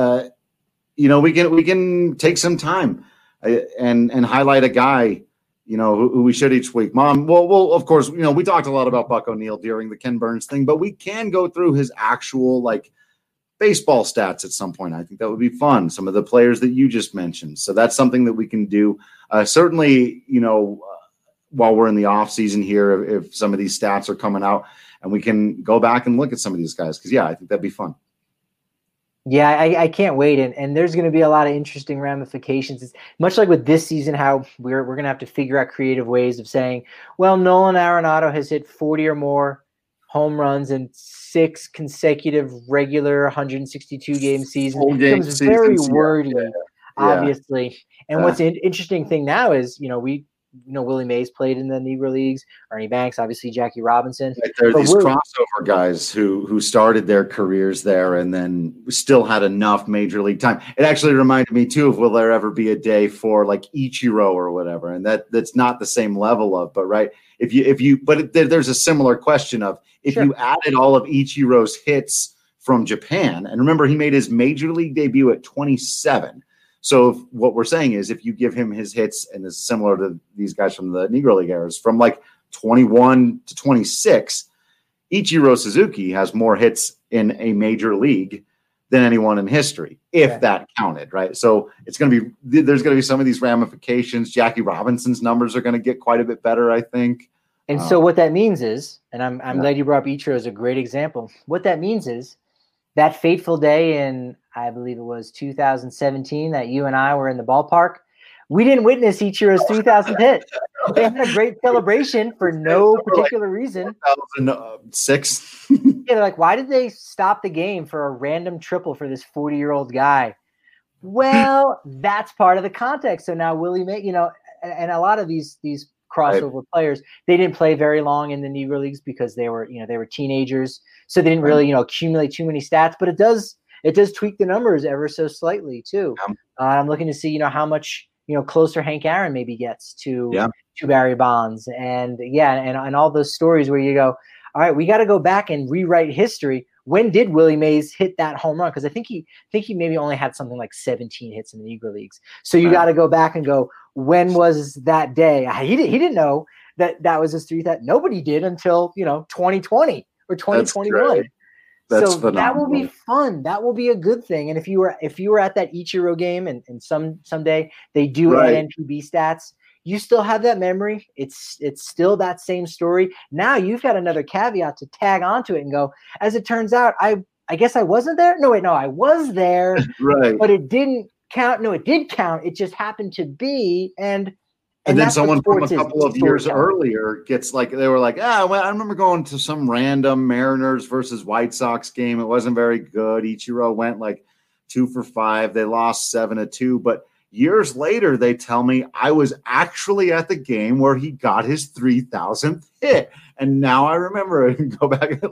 we can take some time and highlight a guy, who we should each week. Well, of course, we talked a lot about Buck O'Neil during the Ken Burns thing, but we can go through his actual baseball stats at some point. I think that would be fun. Some of the players that you just mentioned. So that's something that we can do. Certainly, while we're in the off season here, if some of these stats are coming out, and we can go back and look at some of these guys. Cause I think that'd be fun. Yeah, I can't wait. And there's going to be a lot of interesting ramifications. It's much like with this season, how we're going to have to figure out creative ways of saying, well, Nolan Arenado has hit 40 or more home runs in 6 consecutive regular 162 game seasons. It becomes very wordy, obviously. And what's an interesting thing now is, Willie Mays played in the Negro Leagues, Ernie Banks, obviously Jackie Robinson. Right, there are these crossover guys who started their careers there and then still had enough major league time. It actually reminded me too of will there ever be a day for like Ichiro or whatever, and that's not the same level of, but right. There's a similar question of if you added all of Ichiro's hits from Japan, and remember he made his major league debut at 27. So what we're saying is if you give him his hits, and it's similar to these guys from the Negro League eras, from like 21 to 26, Ichiro Suzuki has more hits in a major league than anyone in history, if that counted, right? So there's going to be some of these ramifications. Jackie Robinson's numbers are going to get quite a bit better, I think. And so what that means is, and I'm glad you brought up Ichiro as a great example. What that means is that fateful day in, I believe it was 2017, that you and I were in the ballpark, we didn't witness Ichiro's 3,000th hit. They had a great celebration for no particular reason. 2006. Yeah, they're like, why did they stop the game for a random triple for this 40-year-old guy? Well, that's part of the context. So now Willie May, and a lot of these crossover players, they didn't play very long in the Negro Leagues because they were teenagers, so they didn't really accumulate too many stats. But it does tweak the numbers ever so slightly too. I'm looking to see how much closer Hank Aaron maybe gets to Barry Bonds, and all those stories where you go, all right, we got to go back and rewrite history. When did Willie Mays hit that home run? Because I think he maybe only had something like 17 hits in the Negro Leagues. So you got to go back and go, when was that day? He didn't know that was his 3,000. Nobody did until 2020 or 2021. That's so phenomenal. That will be fun. That will be a good thing. And if you were at that Ichiro game and someday they do add NPB stats, you still have that memory. It's still that same story. Now you've got another caveat to tag onto it and go, as it turns out, I guess I wasn't there. No, I was there, right? But it didn't count. No, it did count. It just happened to be. And then someone from a couple of years earlier gets they were like, well, I remember going to some random Mariners versus White Sox game. It wasn't very good. Ichiro went 2 for 5. They lost 7-2, but years later, they tell me I was actually at the game where he got his 3,000th hit. And now I remember it and go back and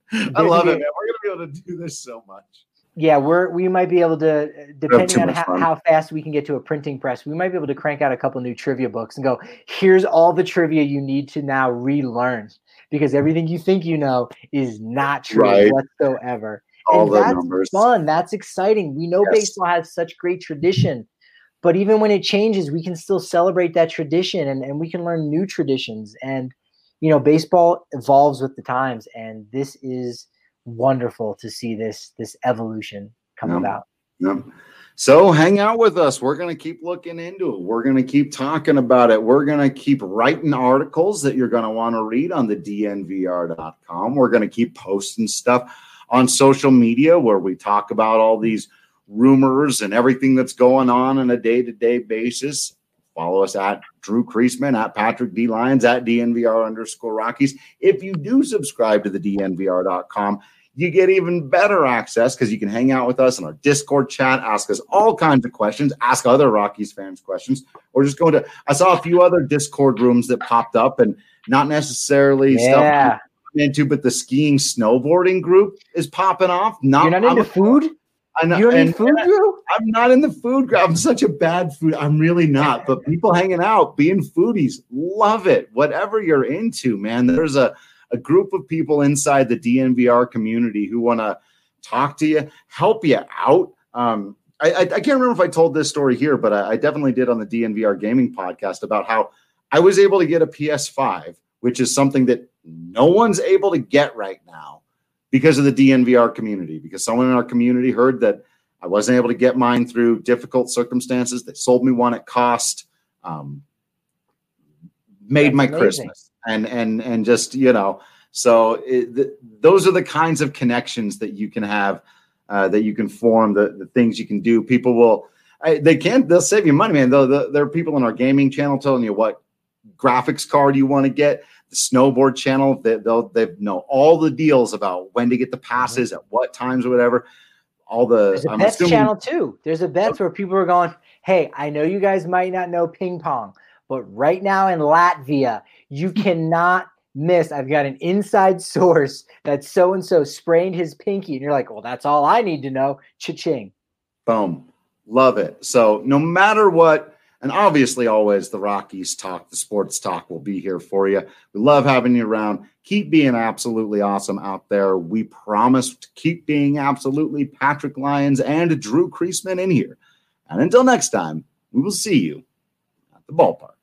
I love it, man. We're going to be able to do this so much. Yeah, we might be able to, depending on how fast we can get to a printing press, we might be able to crank out a couple new trivia books and go, here's all the trivia you need to now relearn, because everything you think you know is not true whatsoever. That's numbers. Fun. That's exciting. We know baseball has such great tradition. But even when it changes, we can still celebrate that tradition and we can learn new traditions. And, baseball evolves with the times. And this is wonderful to see this evolution come about. Yep. So hang out with us. We're going to keep looking into it. We're going to keep talking about it. We're going to keep writing articles that you're going to want to read on the DNVR.com. We're going to keep posting stuff on social media where we talk about all these rumors and everything that's going on a day-to-day basis. Follow us at Drew Creasman, at Patrick D. Lyons, at DNVR_Rockies. If you do subscribe to the DNVR.com, you get even better access because you can hang out with us in our Discord chat, ask us all kinds of questions, ask other Rockies fans questions, or just go to – I saw a few other Discord rooms that popped up and not necessarily stuff I'm into, but the skiing snowboarding group is popping off. You're not into food? You don't eat food, Drew? I'm not in the food group. I'm such a bad food. I'm really not. But people hanging out, being foodies, love it. Whatever you're into, man. There's a group of people inside the DNVR community who want to talk to you, help you out. I can't remember if I told this story here, but I definitely did on the DNVR gaming podcast about how I was able to get a PS5, which is something that no one's able to get right now because of the DNVR community, because someone in our community heard that I wasn't able to get mine through difficult circumstances. They sold me one at cost, made my Christmas. And just, so those are the kinds of connections that you can have, that you can form, the things you can do. People will, they'll save you money, man. There are people on our gaming channel telling you what graphics card you want to get. The snowboard channel, they know all the deals about when to get the passes at what times or whatever. There's a bets channel too. There's a bets where people are going, hey, I know you guys might not know ping pong, But right now in Latvia, you cannot miss. I've got an inside source that so-and-so sprained his pinky. And you're like, well, that's all I need to know. Cha-ching. Boom. Love it. So no matter what, and obviously always the Rockies talk, the sports talk will be here for you. We love having you around. Keep being absolutely awesome out there. We promise to keep being absolutely Patrick Lyons and Drew Creasman in here. And until next time, we will see you at the ballpark.